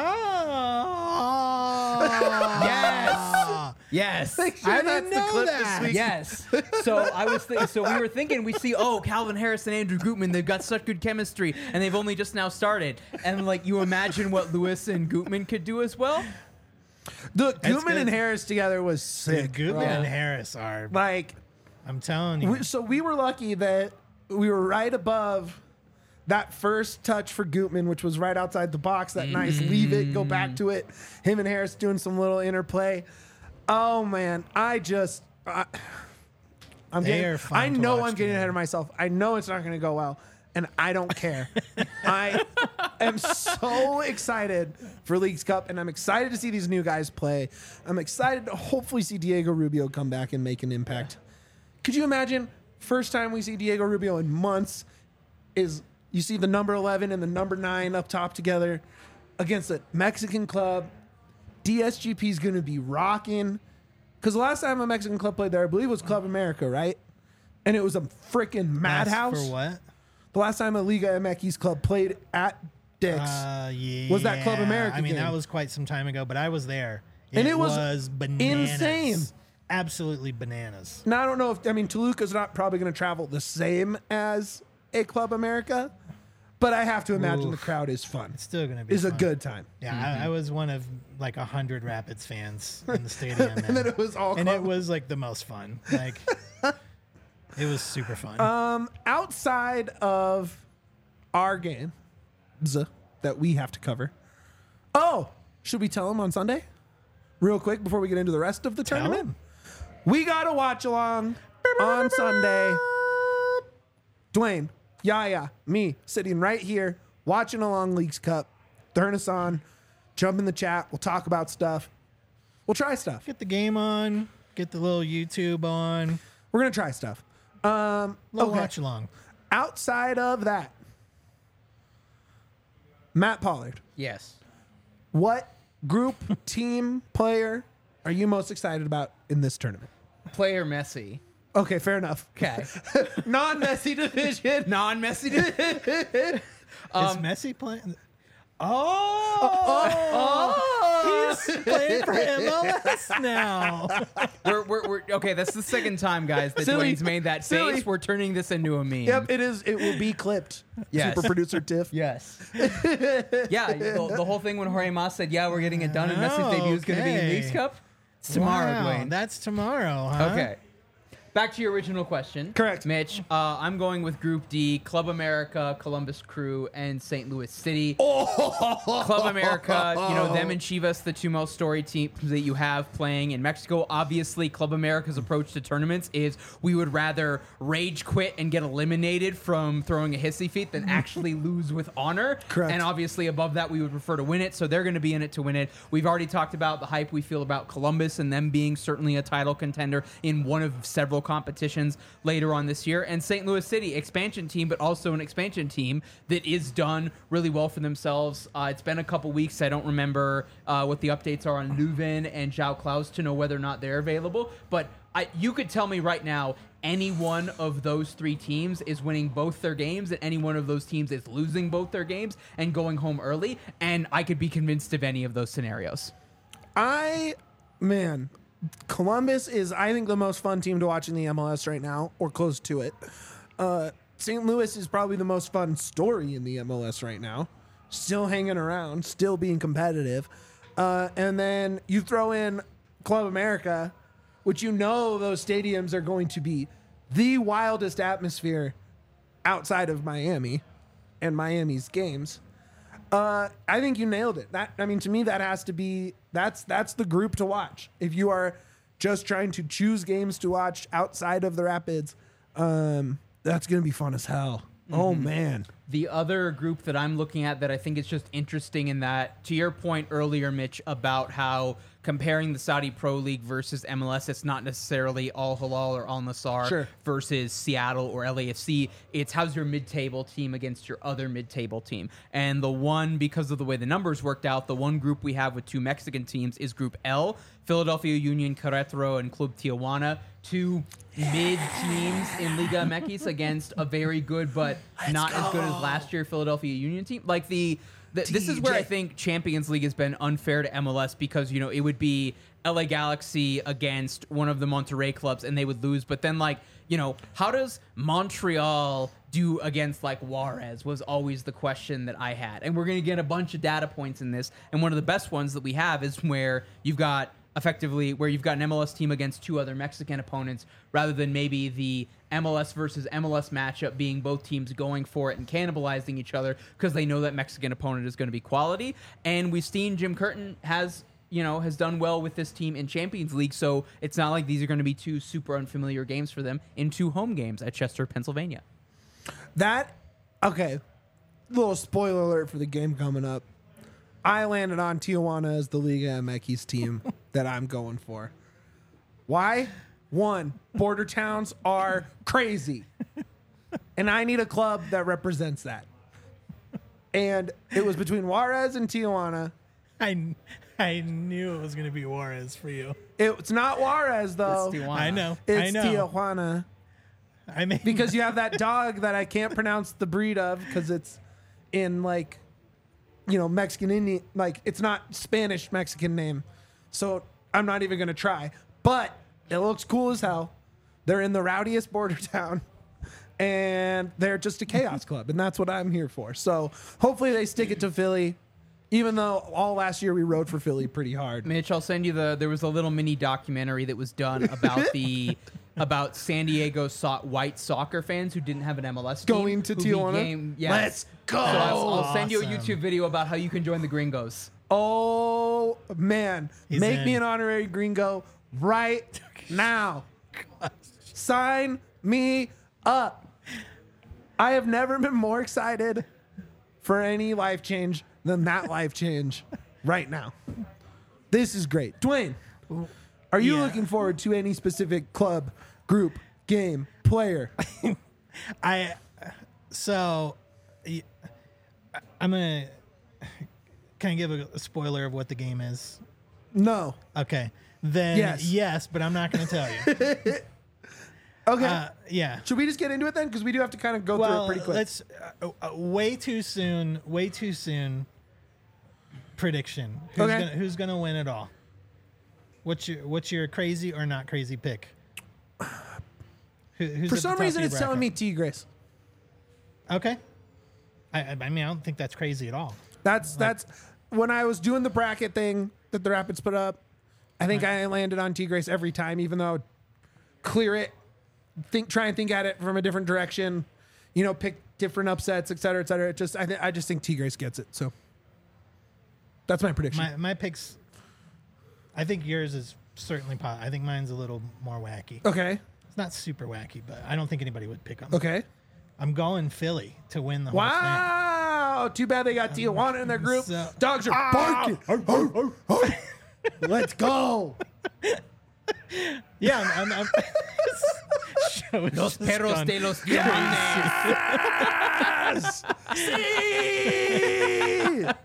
Oh. Yes. Yes. Make sure I that's didn't the know clip that. this week. Yes. So I was so we were thinking we see Calvin Harris and Andrew Gutman, they've got such good chemistry and they've only just now started. And like you imagine what Lewis and Gutman could do as well? The Gutman good. and Harris together was sick. Gutman bro. and Harris are. Like, I'm telling you. so we were lucky that we were right above that first touch for Gutman, which was right outside the box. That nice leave it, go back to it. Him and Harris doing some little interplay. Oh man, I'm They getting. are fun I to know watch I'm getting ahead together. of myself. I know it's not going to go well, and I don't care. I am so excited for Leagues Cup, and I'm excited to see these new guys play. I'm excited to hopefully see Diego Rubio come back and make an impact. Could you imagine, first time we see Diego Rubio in months is you see the number 11 and the number 9 up top together against a Mexican club. DSGP is going to be rocking. Because the last time a Mexican club played there, I believe it was Club America, right? And it was a freaking madhouse. For what? The last time a Liga MX club played at Dick's Yeah. was that Club America I mean, game. that was quite some time ago, but I was there. And it was bananas. insane. Absolutely bananas. Now, I don't know if, Toluca's not probably going to travel the same as a Club America, but I have to imagine the crowd is fun. It's still going to be It's a fun. good time. Yeah, I was one of like 100 Rapids fans in the stadium. And then it was all And club. it was like the most fun. Like, it was super fun. Outside of our games that we have to cover. Oh, should we tell them on Sunday? Real quick before we get into the rest of the Tell tournament? 'em. We got to watch along on Sunday. Dwayne, Yaya, me, sitting right here, watching along Leagues Cup. Turn us on. Jump in the chat. We'll talk about stuff. We'll try stuff. Get the game on. Get the little YouTube on. We're going to try stuff. Little Okay. watch along. Outside of that, Matt Pollard, Yes. what group, team, player are you most excited about in this tournament? Player Messi. Okay, fair enough. Okay. Non-Messi division. Non-Messi. Is Messi playing? He's playing for MLS now. we're okay. That's the second time, guys, that Silly. Dwayne's made that Silly. face. We're turning this into a meme. Yep, it is. It will be clipped. Yes. Super producer Tiff. Yes. Yeah. The whole thing when Jorge Mas said, "Yeah, we're getting it done," and Messi's debut is going to be in Okay. Leagues Cup. It's tomorrow, Wow, Dwayne. that's tomorrow, huh? Okay. Back to your original question. Correct. Mitch. I'm going with Group D, Club America, Columbus Crew, and St. Louis City. Oh. Club America, them and Chivas, the two most storied teams that you have playing in Mexico. Obviously, Club America's approach to tournaments is we would rather rage quit and get eliminated from throwing a hissy fit than actually lose with honor. Correct. And obviously, above that, we would prefer to win it. So they're going to be in it to win it. We've already talked about the hype we feel about Columbus and them being certainly a title contender in one of several competitions later on this year. And St. Louis City, expansion team, but also an expansion team that is done really well for themselves. It's been a couple weeks. I don't remember what the updates are on Leuven and João Klaus to know whether or not they're available. But you could tell me right now, any one of those three teams is winning both their games, and any one of those teams is losing both their games and going home early. And I could be convinced of any of those scenarios. Columbus is, I think, the most fun team to watch in the MLS right now, or close to it. St. Louis is probably the most fun story in the MLS right now. Still hanging around, still being competitive. And then you throw in Club America, which those stadiums are going to be the wildest atmosphere outside of Miami and Miami's games. I think you nailed it. To me, that has to be that's the group to watch. If you are just trying to choose games to watch outside of the Rapids, that's gonna be fun as hell. Mm-hmm. Oh man. The other group that I'm looking at that I think is just interesting in that, to your point earlier, Mitch, about how comparing the Saudi Pro League versus MLS, it's not necessarily Al Hilal or Al Nassr versus Seattle or LAFC. It's how's your mid-table team against your other mid-table team. And the one, because of the way the numbers worked out, the one group we have with two Mexican teams is Group L, Philadelphia Union, Querétaro, and Club Tijuana. Two mid teams in Liga MX against a very good but not as good as last year Philadelphia Union team. Like this is where I think Champions League has been unfair to MLS because it would be LA Galaxy against one of the Monterrey clubs and they would lose. But then how does Montreal do against Juarez was always the question that I had. And we're going to get a bunch of data points in this. And one of the best ones that we have is where you've got an MLS team against two other Mexican opponents rather than maybe the MLS versus MLS matchup being both teams going for it and cannibalizing each other because they know that Mexican opponent is going to be quality. And we've seen Jim Curtin has done well with this team in Champions League, so it's not like these are going to be two super unfamiliar games for them in two home games at Chester, Pennsylvania. Okay. little spoiler alert for the game coming up. I landed on Tijuana as the Liga MX team that I'm going for. Why? One, border towns are crazy. And I need a club that represents that. And it was between Juarez and Tijuana. I knew it was going to be Juarez for you. It's not Juarez, though. It's Tijuana. I know. It's I know. Tijuana. I mean, Because you have that dog that I can't pronounce the breed of because it's in like, Mexican Indian, like it's not Spanish Mexican name. So I'm not even going to try. But it looks cool as hell. They're in the rowdiest border town. And they're just a chaos club. And that's what I'm here for. So hopefully they stick it to Philly. Even though all last year we rode for Philly pretty hard. Mitch, I'll send you there was a little mini documentary that was done about about San Diego white soccer fans who didn't have an MLS team. Going to who Tijuana? Yes. Let's go. So I'll send you a Awesome. YouTube video about how you can join the Gringos. Oh, man. He's Make in. me an honorary gringo right now. Sign me up. I have never been more excited for any life change than that life change right now. This is great. Dwayne, are you Yeah. looking forward to any specific club, group, game, player? I'm gonna can I give a spoiler of what the game is? No. Okay, then Yes. yes, but I'm not gonna tell you. Okay. Yeah. Should we just get into it then? Because we do have to kind of go through it pretty quick. Let's way too soon. Prediction. Okay. Who's gonna win it all? What's your crazy or not crazy pick? Who's For at the some top reason, of your it's telling me bracket? Tigres. Okay. I mean, I don't think that's crazy at all. That's when I was doing the bracket thing that the Rapids put up. I think I landed on Tigres every time, even though I would clear it, try and think at it from a different direction, pick different upsets, et cetera, et cetera. I just think Tigres gets it. So that's my prediction. My picks. I think yours is certainly. I think mine's a little more wacky. Okay. It's not super wacky, but I don't think anybody would pick them. Okay. I'm going Philly to win the whole thing. Wow. Too bad they got Tijuana in their group. So- Dogs are barking. Let's go. Yeah, I'm Show is Los just perros gone de los diamantes. Yes. Sí.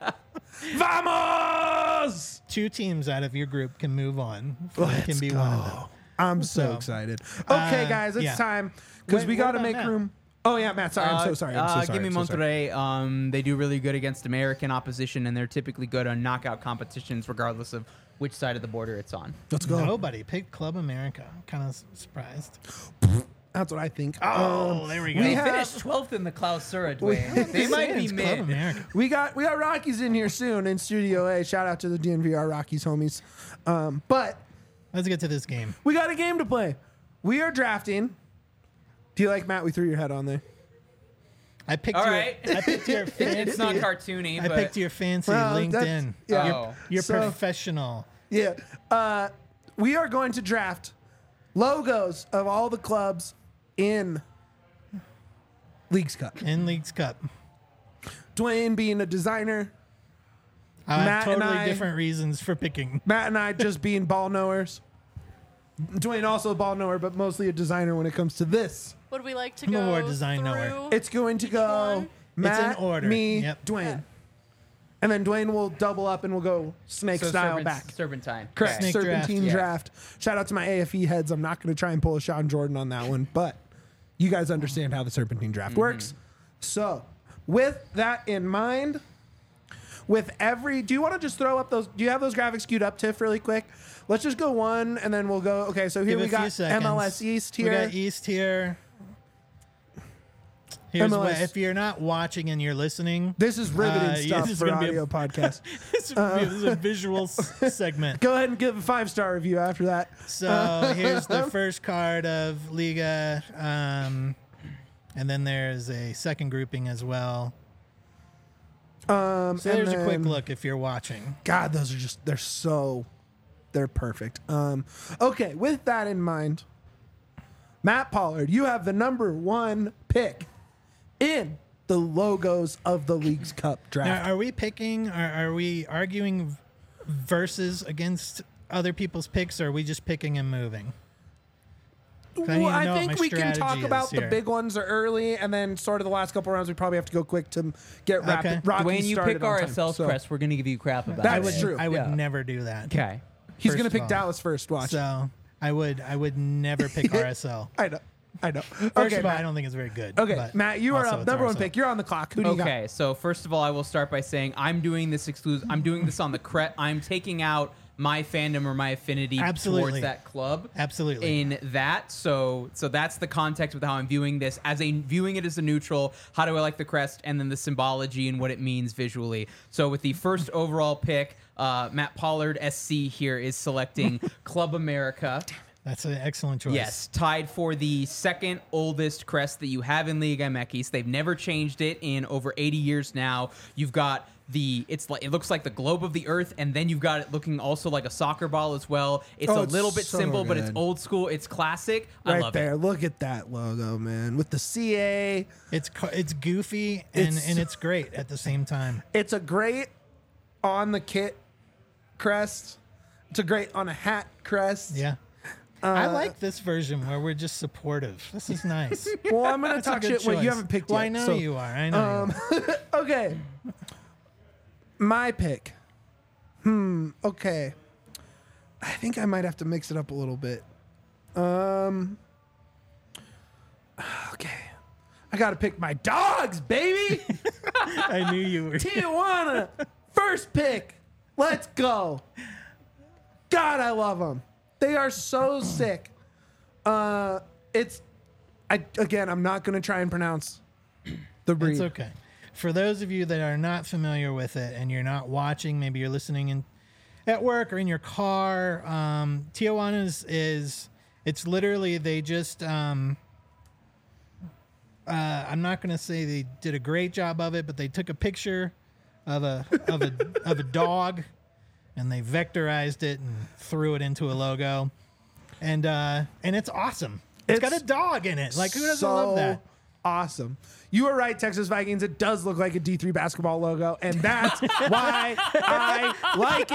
Vamos. 2 teams out of your group can move on. Philly Let's can be go. one of them. I'm so So, excited. Okay, guys, it's yeah. time because we What got to about make Matt? room. Oh yeah, Matt. Sorry, I'm so sorry. I'm so sorry. Give me I'm so sorry. Monterrey. They do really good against American opposition, and they're typically good on knockout competitions, regardless of which side of the border it's on. Let's go. Nobody picked Club America. I'm kind of surprised. That's what I think. Oh, there we go. we They have- finished 12th in the Clausura, Dwayne. They might be It's Club mid. America. We got Rockies in here soon in Studio A. Shout out to the DNVR Rockies homies. But Let's get to this game. we got a game to play. We are drafting. Do you like Matt? We threw your head on there. I picked All your. right. I picked your fancy. It's not cartoony, I but picked your fancy Well, LinkedIn. that's- yeah. Oh. You're So- professional. Yeah. We are going to draft logos of all the clubs in Leagues Cup. In Leagues Cup. Dwayne being a designer, I have Matt and totally I- different reasons for picking. Matt and I just being ball knowers. Dwayne also a ball knower, but mostly a designer when it comes to this. Would we like to I'm a go more design knower. through? It's going to go one? Matt, It's in order. me, Yep. Dwayne. And then Dwayne will double up and we'll go snake style back. Serpentine. Correct. Snake Serpentine draft. draft. Shout out to my AFE heads. I'm not going to try and pull a Sean Jordan on that one, but you guys understand how the Serpentine draft works. So, with that in mind, do you want to just throw up those? Do you have those graphics queued up, Tiff, really quick? Let's just go one and then we'll go. Okay, so here Give we it a few got seconds. MLS East We here. got East here. Here's MLS. what, if you're not watching and you're listening, This is riveting yeah, stuff this is for gonna be audio a- podcast. this is a visual segment. Go ahead and give a 5-star review after that. So here's the first card of Liga, and then there's a second grouping as well. So there's a quick look if you're watching. God, those are just, they're perfect. Okay, with that in mind, Matt Pollard, you have the number 1 pick in the logos of the League's Cup draft. Now, are we picking? Are we arguing versus against other people's picks, or are we just picking and moving? Well, I think we can talk about the big ones early, and then sort of the last couple rounds, we probably have to go quick to get Okay. Rocky When you started pick on time. RSL's So, crest, we're going to give you crap about That's it. true. I would Yeah. never do that. Okay. He's First going to of pick all. Dallas first. Watch. So I would never pick RSL. I know. First Okay, of all, I Matt. don't think it's very good. Okay, but Matt, you are also up. it's Number one RSL. pick. You're on the clock. Who do you got? Okay, so first of all, I will start by saying I'm doing this I'm doing this on the crest. I'm taking out my fandom or my affinity Absolutely. towards that club. Absolutely. In that, so that's the context with how I'm viewing this viewing it as a neutral. How do I like the crest, and then the symbology and what it means visually. So with the first overall pick, Matt Pollard SC here is selecting Club America. That's an excellent choice. Yes, tied for the second oldest crest that you have in Liga MX. They've never changed it in over 80 years now. You've got it looks like the globe of the earth, and then you've got it looking also like a soccer ball as well. It's Oh, a it's little bit so simple, but it's good. old school. It's classic. I Right love there. it. Look at that logo, man. With the CA. It's goofy and It's- and it's great at the same time. It's a great on the kit crest. It's a great on a hat crest. Yeah. I like this version where we're just supportive. This is nice. Well, I'm going to That's a touch good it when you choice. haven't picked Well, yet. I know so- you are. I know. You are. Okay. My pick. Okay. I think I might have to mix it up a little bit. Okay. I got to pick my dogs, baby. I knew you were. Tijuana. First pick. Let's go. God, I love them. They are so sick. I'm not going to try and pronounce the breed. It's okay. For those of you that are not familiar with it and you're not watching, maybe you're listening in at work or in your car. Tijuana's it's literally they just I'm not going to say they did a great job of it, but they took a picture of a dog and they vectorized it and threw it into a logo, and it's awesome. It's got a dog in it. Like, who doesn't love that? Awesome. You were right, Texas Vikings. It does look like a D3 basketball logo, and that's why I like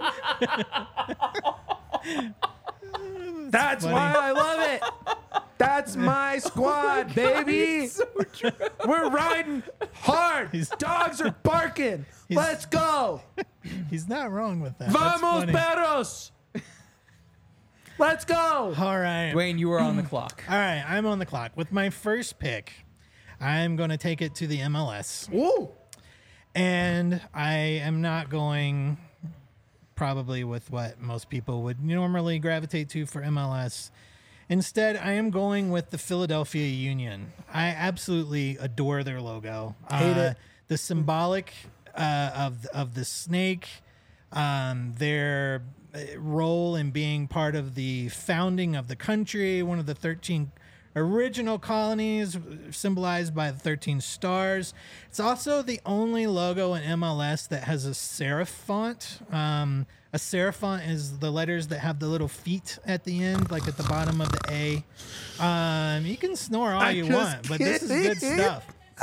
it. That's why I love it. That's my squad, baby. We're riding hard. Dogs are barking. Let's go. He's not wrong with that. That's Vamos, funny. perros. Let's go. All right. Dwayne, you are on the clock. All right, I'm on the clock. With my first pick, I'm going to take it to the MLS. Ooh. And I am not going probably with what most people would normally gravitate to for MLS. Instead, I am going with the Philadelphia Union. I absolutely adore their logo. Hate it. The symbolic of the snake, their role in being part of the founding of the country, one of the 13 original colonies symbolized by the 13 stars. It's also the only logo in MLS that has a serif font. A serif font is the letters that have the little feet at the end, like at the bottom of the A. You can snore all you just want, but this is good kidding. stuff.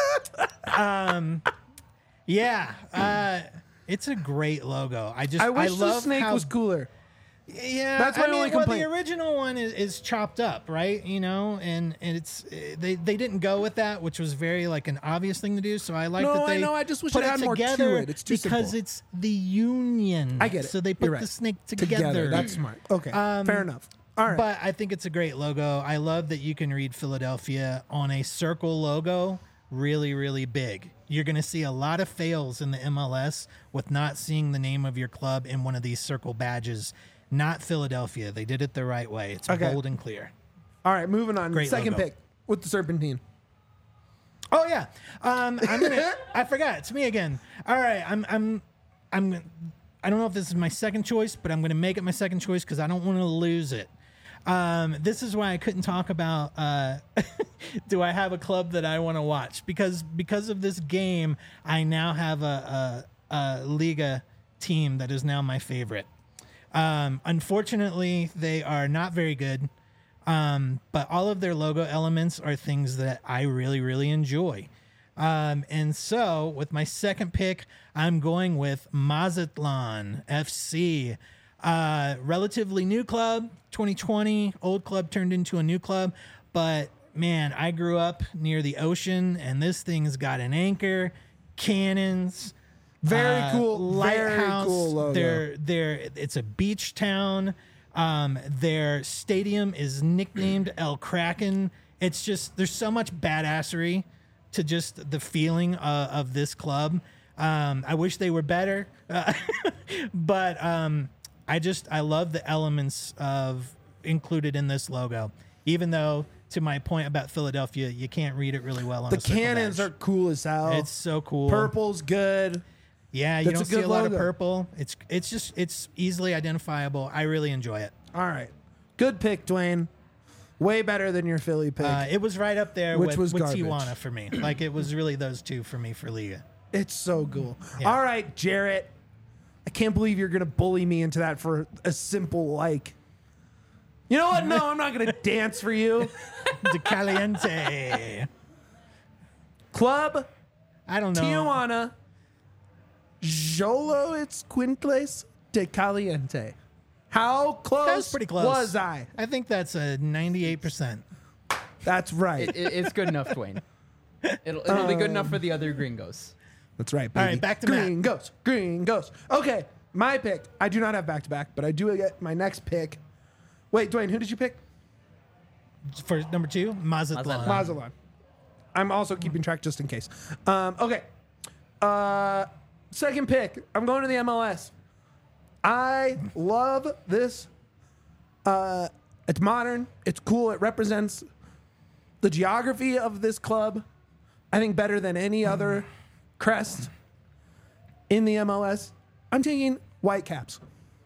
It's a great logo. I wish the love snake how was cooler. yeah, That's my I mean, only well, complaint. the original one is chopped up, right? You know, and it's they didn't go with that, which was very like an obvious thing to do. So I like No, that they I know, I just wish put it had more to together it. It's too because simple. it's the union. I get it. So they You're put right. the snake together. That's smart. Okay, fair enough. All right. But I think it's a great logo. I love that you can read Philadelphia on a circle logo really, really big. You're going to see a lot of fails in the MLS with not seeing the name of your club in one of these circle badges. Not Philadelphia. They did it the right way. It's Okay. bold and clear. All right, moving on. Great Second logo. pick with the Serpentine. Oh yeah. I'm gonna. I forgot. It's me again. All right. I don't know if this is my second choice, but I'm gonna make it my second choice because I don't want to lose it. This is why I couldn't talk about. Do I have a club that I want to watch? Because of this game, I now have a Liga team that is now my favorite. Unfortunately, they are not very good. But all of their logo elements are things that I really, really enjoy. And so with my second pick, I'm going with Mazatlan FC. Relatively new club, 2020, old club turned into a new club. But man, I grew up near the ocean, and this thing's got an anchor, cannons, Very cool. lighthouse. Very cool logo. It's a beach town. Their stadium is nicknamed El Kraken. It's just, there's so much badassery to just the feeling of this club. I wish they were better, but I love the elements of included in this logo. Even though, to my point about Philadelphia, you can't read it really well on The a circle cannons badge. are cool as hell. It's so cool. Purple's good. Yeah, you That's don't a see good a lot logo. of purple. It's easily identifiable. I really enjoy it. All right. Good pick, Dwayne. Way better than your Philly pick. It was right up there Which with was garbage. Tijuana for me. Like, it was really those two for me for Liga. It's so cool. Yeah. All right, Jarrett. I can't believe you're going to bully me into that for a simple like. You know what? No, I'm not going to dance for you. De Caliente. Club I don't know. Tijuana. Jolo it's Quintles de Caliente. How close That was pretty close. was I? I think that's a 98%. That's right. It's good enough, Dwayne. It'll be good enough for the other gringos. That's right, baby. All right, back to Matt. Green Ghost. Green Ghost. Okay, my pick. I do not have back-to-back, but I do get my next pick. Wait, Dwayne, who did you pick? For number 2, Mazatlan. Mazatlan. I'm also keeping track just in case. Okay. Second pick. I'm going to the MLS. I love this. It's modern. It's cool. It represents the geography of this club. I think better than any other crest in the MLS. I'm taking Whitecaps.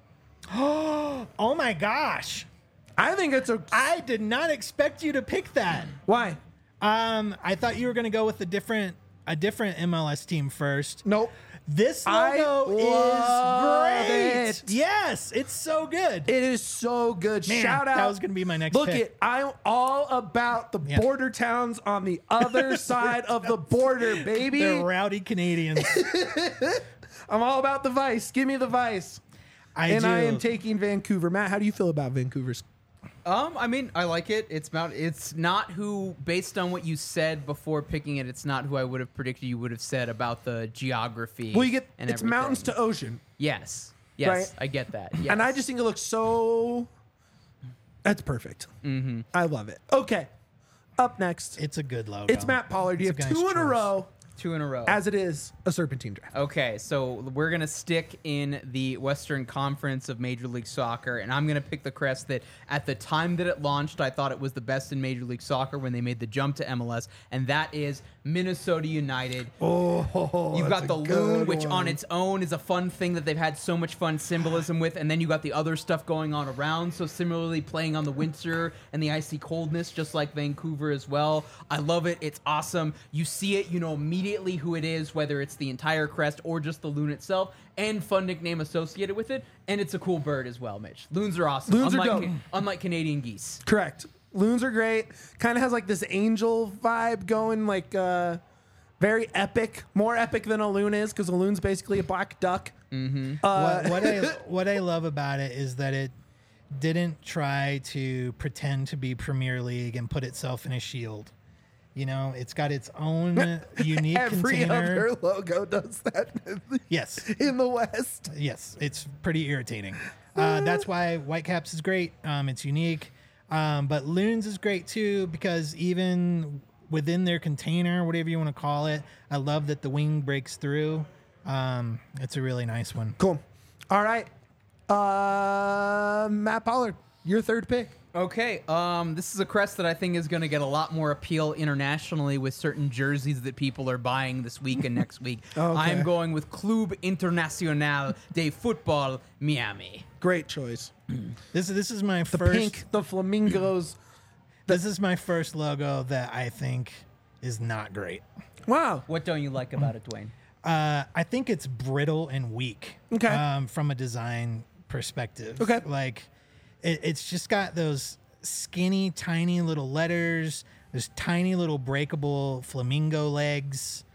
Oh my gosh. I think it's a. I did not expect you to pick that. Why? I thought you were going to go with a different MLS team first. Nope. This I logo love is great. it. Yes, it's so good. It is so good. Man, Shout out. that was going to be my next Look pick. it. I'm all about the Yeah. border towns on the other side of the border, baby. They're rowdy Canadians. I'm all about the Vice. Give me the Vice. I am taking Vancouver. Matt, how do you feel about Vancouver's? I mean, I like it. It's not who, based on what you said before picking it, it's not who I would have predicted you would have said about the geography. Well, you get and it's everything. mountains to ocean. Yes, Right? I get that. Yes. And I just think it looks so. That's perfect. Mm-hmm. I love it. Okay. Up next, It's a good logo. it's Matt Pollard. You It's have a nice two in a choice. row, 2 in a row. as it is a Serpentine draft. Okay, so we're going to stick in the Western Conference of Major League Soccer, and I'm going to pick the crest that at the time that it launched, I thought it was the best in Major League Soccer when they made the jump to MLS, and that is Minnesota United. Oh, You've that's got the a good loon, which one. on its own is a fun thing that they've had so much fun symbolism with, and then you got the other stuff going on around, so similarly playing on the winter and the icy coldness, just like Vancouver as well. I love it. It's awesome. You see it, you know immediately who it is, whether it's the entire crest or just the loon itself, and fun nickname associated with it, and it's a cool bird as well, Mitch. Loons are awesome. Loons are dope. Unlike Canadian geese. Correct. Loons are great. Kind of has like this angel vibe going, like very epic, more epic than a loon is, because a loon's basically a black duck. What I love about it is that it didn't try to pretend to be Premier League and put itself in a shield. You know, it's got its own unique Every container. other logo does that Yes. in the West. Yes, it's pretty irritating. That's why Whitecaps is great. It's unique. But Loons is great too, because even within their container, whatever you want to call it, I love that the wing breaks through. It's a really nice one. Cool. All right. Matt Pollard, your third pick. Okay, this is a crest that I think is going to get a lot more appeal internationally with certain jerseys that people are buying this week and next week. Okay. I'm going with Club Internacional de Football Miami. Great choice. This is my The first. pink, the flamingos. This is my first logo that I think is not great. Wow. What don't you like about it, Dwayne? I think it's brittle and weak. Okay. From a design perspective. Okay. Like, it's just got those skinny, tiny little letters. There's tiny little breakable flamingo legs.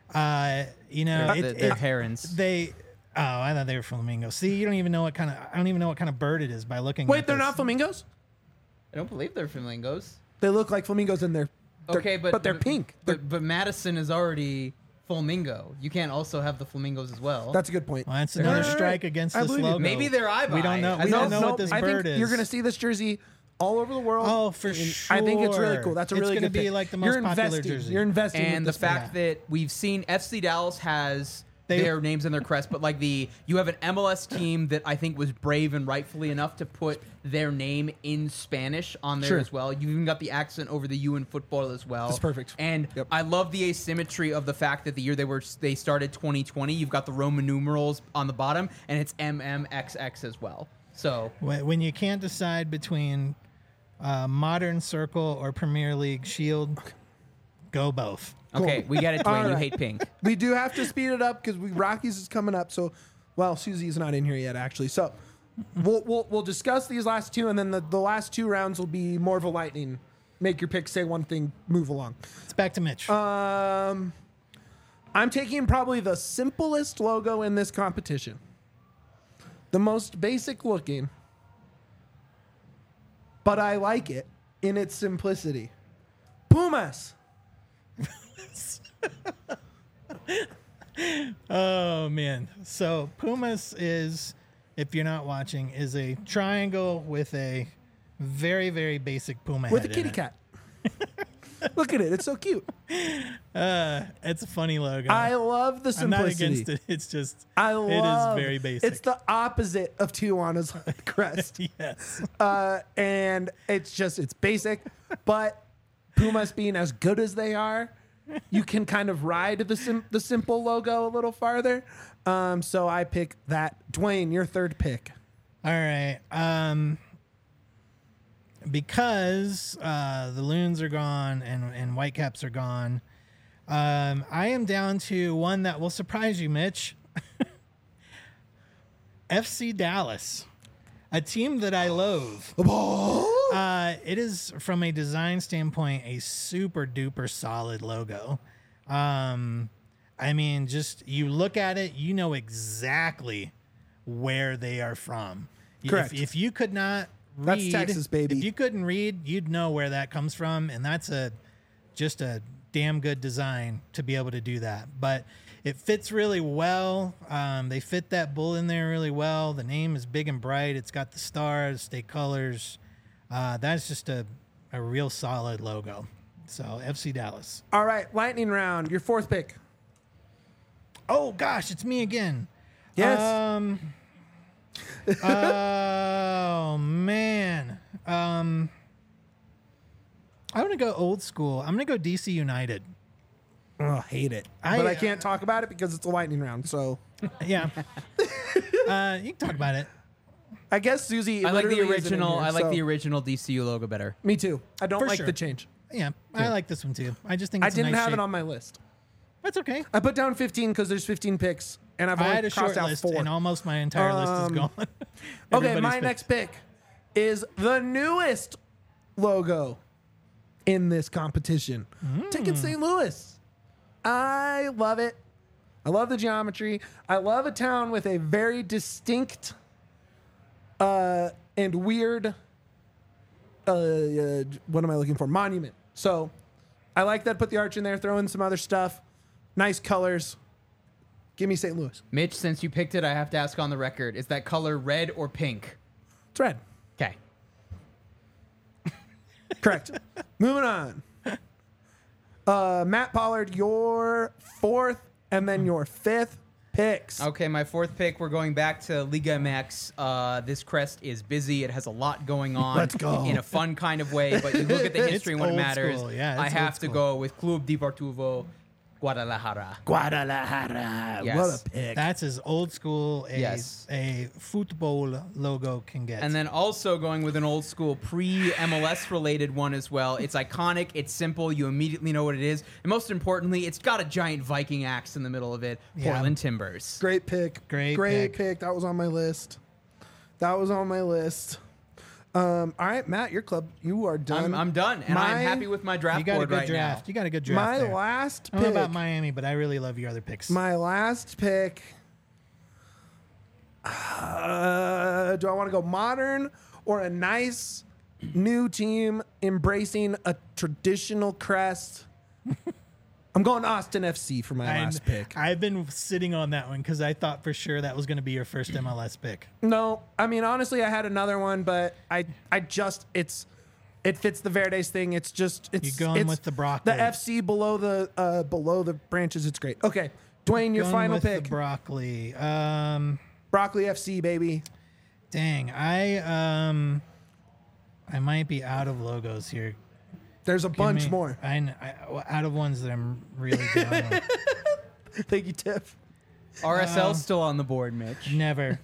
You know, They're herons. I thought they were flamingos. See, you don't even know what kind of. I don't even know what kind of bird it is by looking. Wait, at they're this. not flamingos? I don't believe they're flamingos. They look like flamingos in there. Okay, but they're pink. But Madison is already flamingo. You can't also have the flamingos as well. That's a good point. Well, that's another strike against I this believe you. logo. Maybe they're eye. We don't know. We don't know what this I bird think is. you're going to see this jersey all over the world. Oh, for And sure. I think it's really cool. That's a really It's good gonna be pick. like the most You're popular investing. jersey. You're investing And with the this fact that we've seen FC Dallas has They- their names in their crest, but like you have an MLS team that I think was brave and rightfully enough to put their name in Spanish on there Sure. as well. You even got the accent over the U in football as well. That's perfect. And Yep. I love the asymmetry of the fact that the year they started 2020, you've got the Roman numerals on the bottom, and it's MMXX as well. So When you can't decide between Modern Circle or Premier League Shield, go both. okay, we get it, Dwayne. You right. hate pink. we do have to speed it up because Rockies is coming up. So, well, Susie's not in here yet, actually. So, we'll discuss these last two, and then the last two rounds will be more of a lightning. Make your pick, say one thing, move along. It's back to Mitch. I'm taking probably the simplest logo in this competition, the most basic looking, but I like it in its simplicity. Pumas. Oh man. So Pumas is, if you're not watching, is a triangle with a very, very basic puma With a head kitty in it. cat. Look at it. It's so cute. It's a funny logo. I love the I'm not simplicity. against it. It's just I it love is very basic. It's the opposite of Tijuana's crest. yes. And it's basic, but Pumas being as good as they are, you can kind of ride the simple logo a little farther. So I pick that. Dwayne, your third pick. All right. Because the Loons are gone and Whitecaps are gone, I am down to one that will surprise you, Mitch. FC Dallas, a team that I loathe. It is, from a design standpoint, a super duper solid logo. I mean, just you look at it, you know exactly where they are from. Correct. If you could not read, That's Texas, baby. If you couldn't read, you'd know where that comes from, and that's just a damn good design to be able to do that. But it fits really well. They fit that bull in there really well. The name is big and bright. It's got the stars, state colors. That's just a real solid logo. So FC Dallas. All right, lightning round. Your fourth pick. Oh gosh, it's me again. Yes. Oh man. I'm gonna go old school. I'm gonna go DC United. Oh, hate it. But I can't talk about it because it's a lightning round. So Yeah. You can talk about it. I guess Susie. I like the literally isn't in original. here, I like so- the original DCU logo better. Me too. I don't For like sure. the change. Yeah, I like this one too. I just think I it's didn't a nice have shape. it on my list. That's okay. I put down 15 because there's 15 picks, and I've I only had a crossed short out list, 4. and almost my entire list is gone. Okay, Everybody's my picked. next pick is the newest logo in this competition. Ticket St. Louis. I love it. I love the geometry. I love a town with a very distinct and weird what am I looking for? Monument. So I like that. Put the arch in there, throw in some other stuff. Nice colors. Give me St. Louis. Mitch, since you picked it, I have to ask on the record: is that color red or pink? It's red. Okay. Correct. Moving on. Matt Pollard, your fourth and then your fifth picks. Okay, my fourth pick, we're going back to Liga MX. This crest is busy. It has a lot going on. Let's go. In a fun kind of way, but you look at the history and what it old matters. school. Yeah, I it's have old to school. go with Club Deportivo Guadalajara. Guadalajara. Yes. What a pick. That's as old school Yes. a football logo can get. And then also going with an old school pre-MLS related one as well. It's iconic. It's simple. You immediately know what it is. And most importantly, it's got a giant Viking axe in the middle of it. Yeah. Portland Timbers. Great pick. Great Great pick. pick. That was on my list. All right, Matt, your club, you are done. I'm done, and I'm happy with my draft You got a board good right draft. now. You got a good draft. My there. last I don't know pick. about Miami, but I really love your other picks. My last pick. Do I want to go modern or a nice new team embracing a traditional crest? I'm going Austin FC for my last pick. I've been sitting on that one because I thought for sure that was going to be your first MLS pick. No, I mean honestly, I had another one, but it fits the Verdes thing. It's You're going with the broccoli. The FC below the branches. It's great. Okay, Dwayne, your Going final with pick. The broccoli. Broccoli FC, baby. Dang, I might be out of logos here. There's a Give bunch me- more. out of ones that I'm really down on. Thank you, Tiff. RSL's still on the board, Mitch. Never.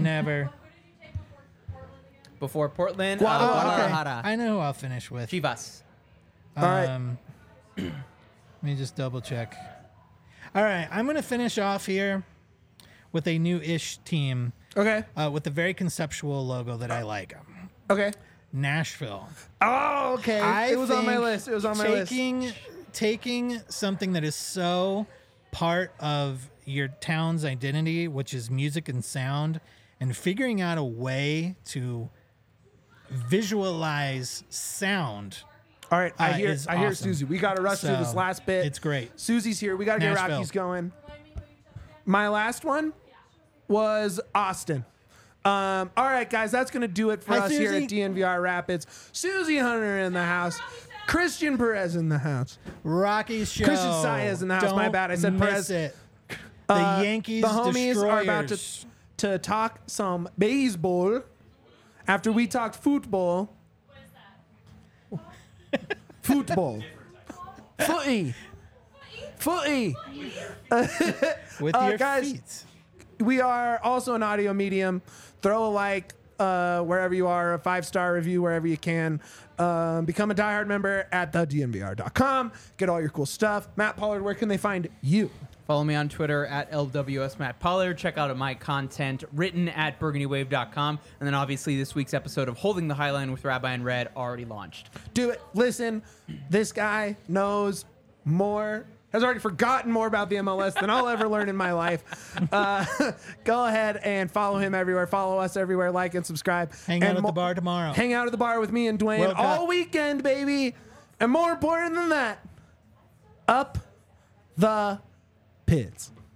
Before Portland, Guadalajara. Guadalajara. I know who I'll finish with. Chivas. All right. Let me just double check. All right, I'm going to finish off here with a new-ish team Okay. with a very conceptual logo that I like. Okay. Nashville. Oh, okay. It was on my think list. It was on my list. Taking something that is so part of your town's identity, which is music and sound, and figuring out a way to visualize sound. All right. I hear is awesome. awesome. Susie. We got to rush through this So, last bit. it's great. Susie's here. We got to get Nashville. Rockies going. My last one was Austin. All right, guys, that's going to do it for Hi, us here Susie. at DNVR Rapids. Susie Hunter in the house. Christian Perez in the house. Rockies show. Christian Saez in the house. My Don't bad. I said miss Perez. it. The Yankees The homies destroyers. are about to talk some baseball after we talked football. Football. Footy. with your guys, feet. We are also an audio medium. Throw a like wherever you are, a 5-star review wherever you can. Become a diehard member at thednvr.com. Get all your cool stuff. Matt Pollard, where can they find you? Follow me on Twitter at LWS Matt Pollard. Check out my content written at burgundywave.com. And then obviously this week's episode of Holding the Highline with Rabbi and Red already launched. Do it. Listen, this guy knows more, has already forgotten more about the MLS than I'll ever learn in my life. Go ahead and follow him everywhere. Follow us everywhere. Like and subscribe. Hang out at the bar tomorrow. Hang out at the bar with me and Dwayne World Cup. all weekend, baby. And more important than that, up the pits.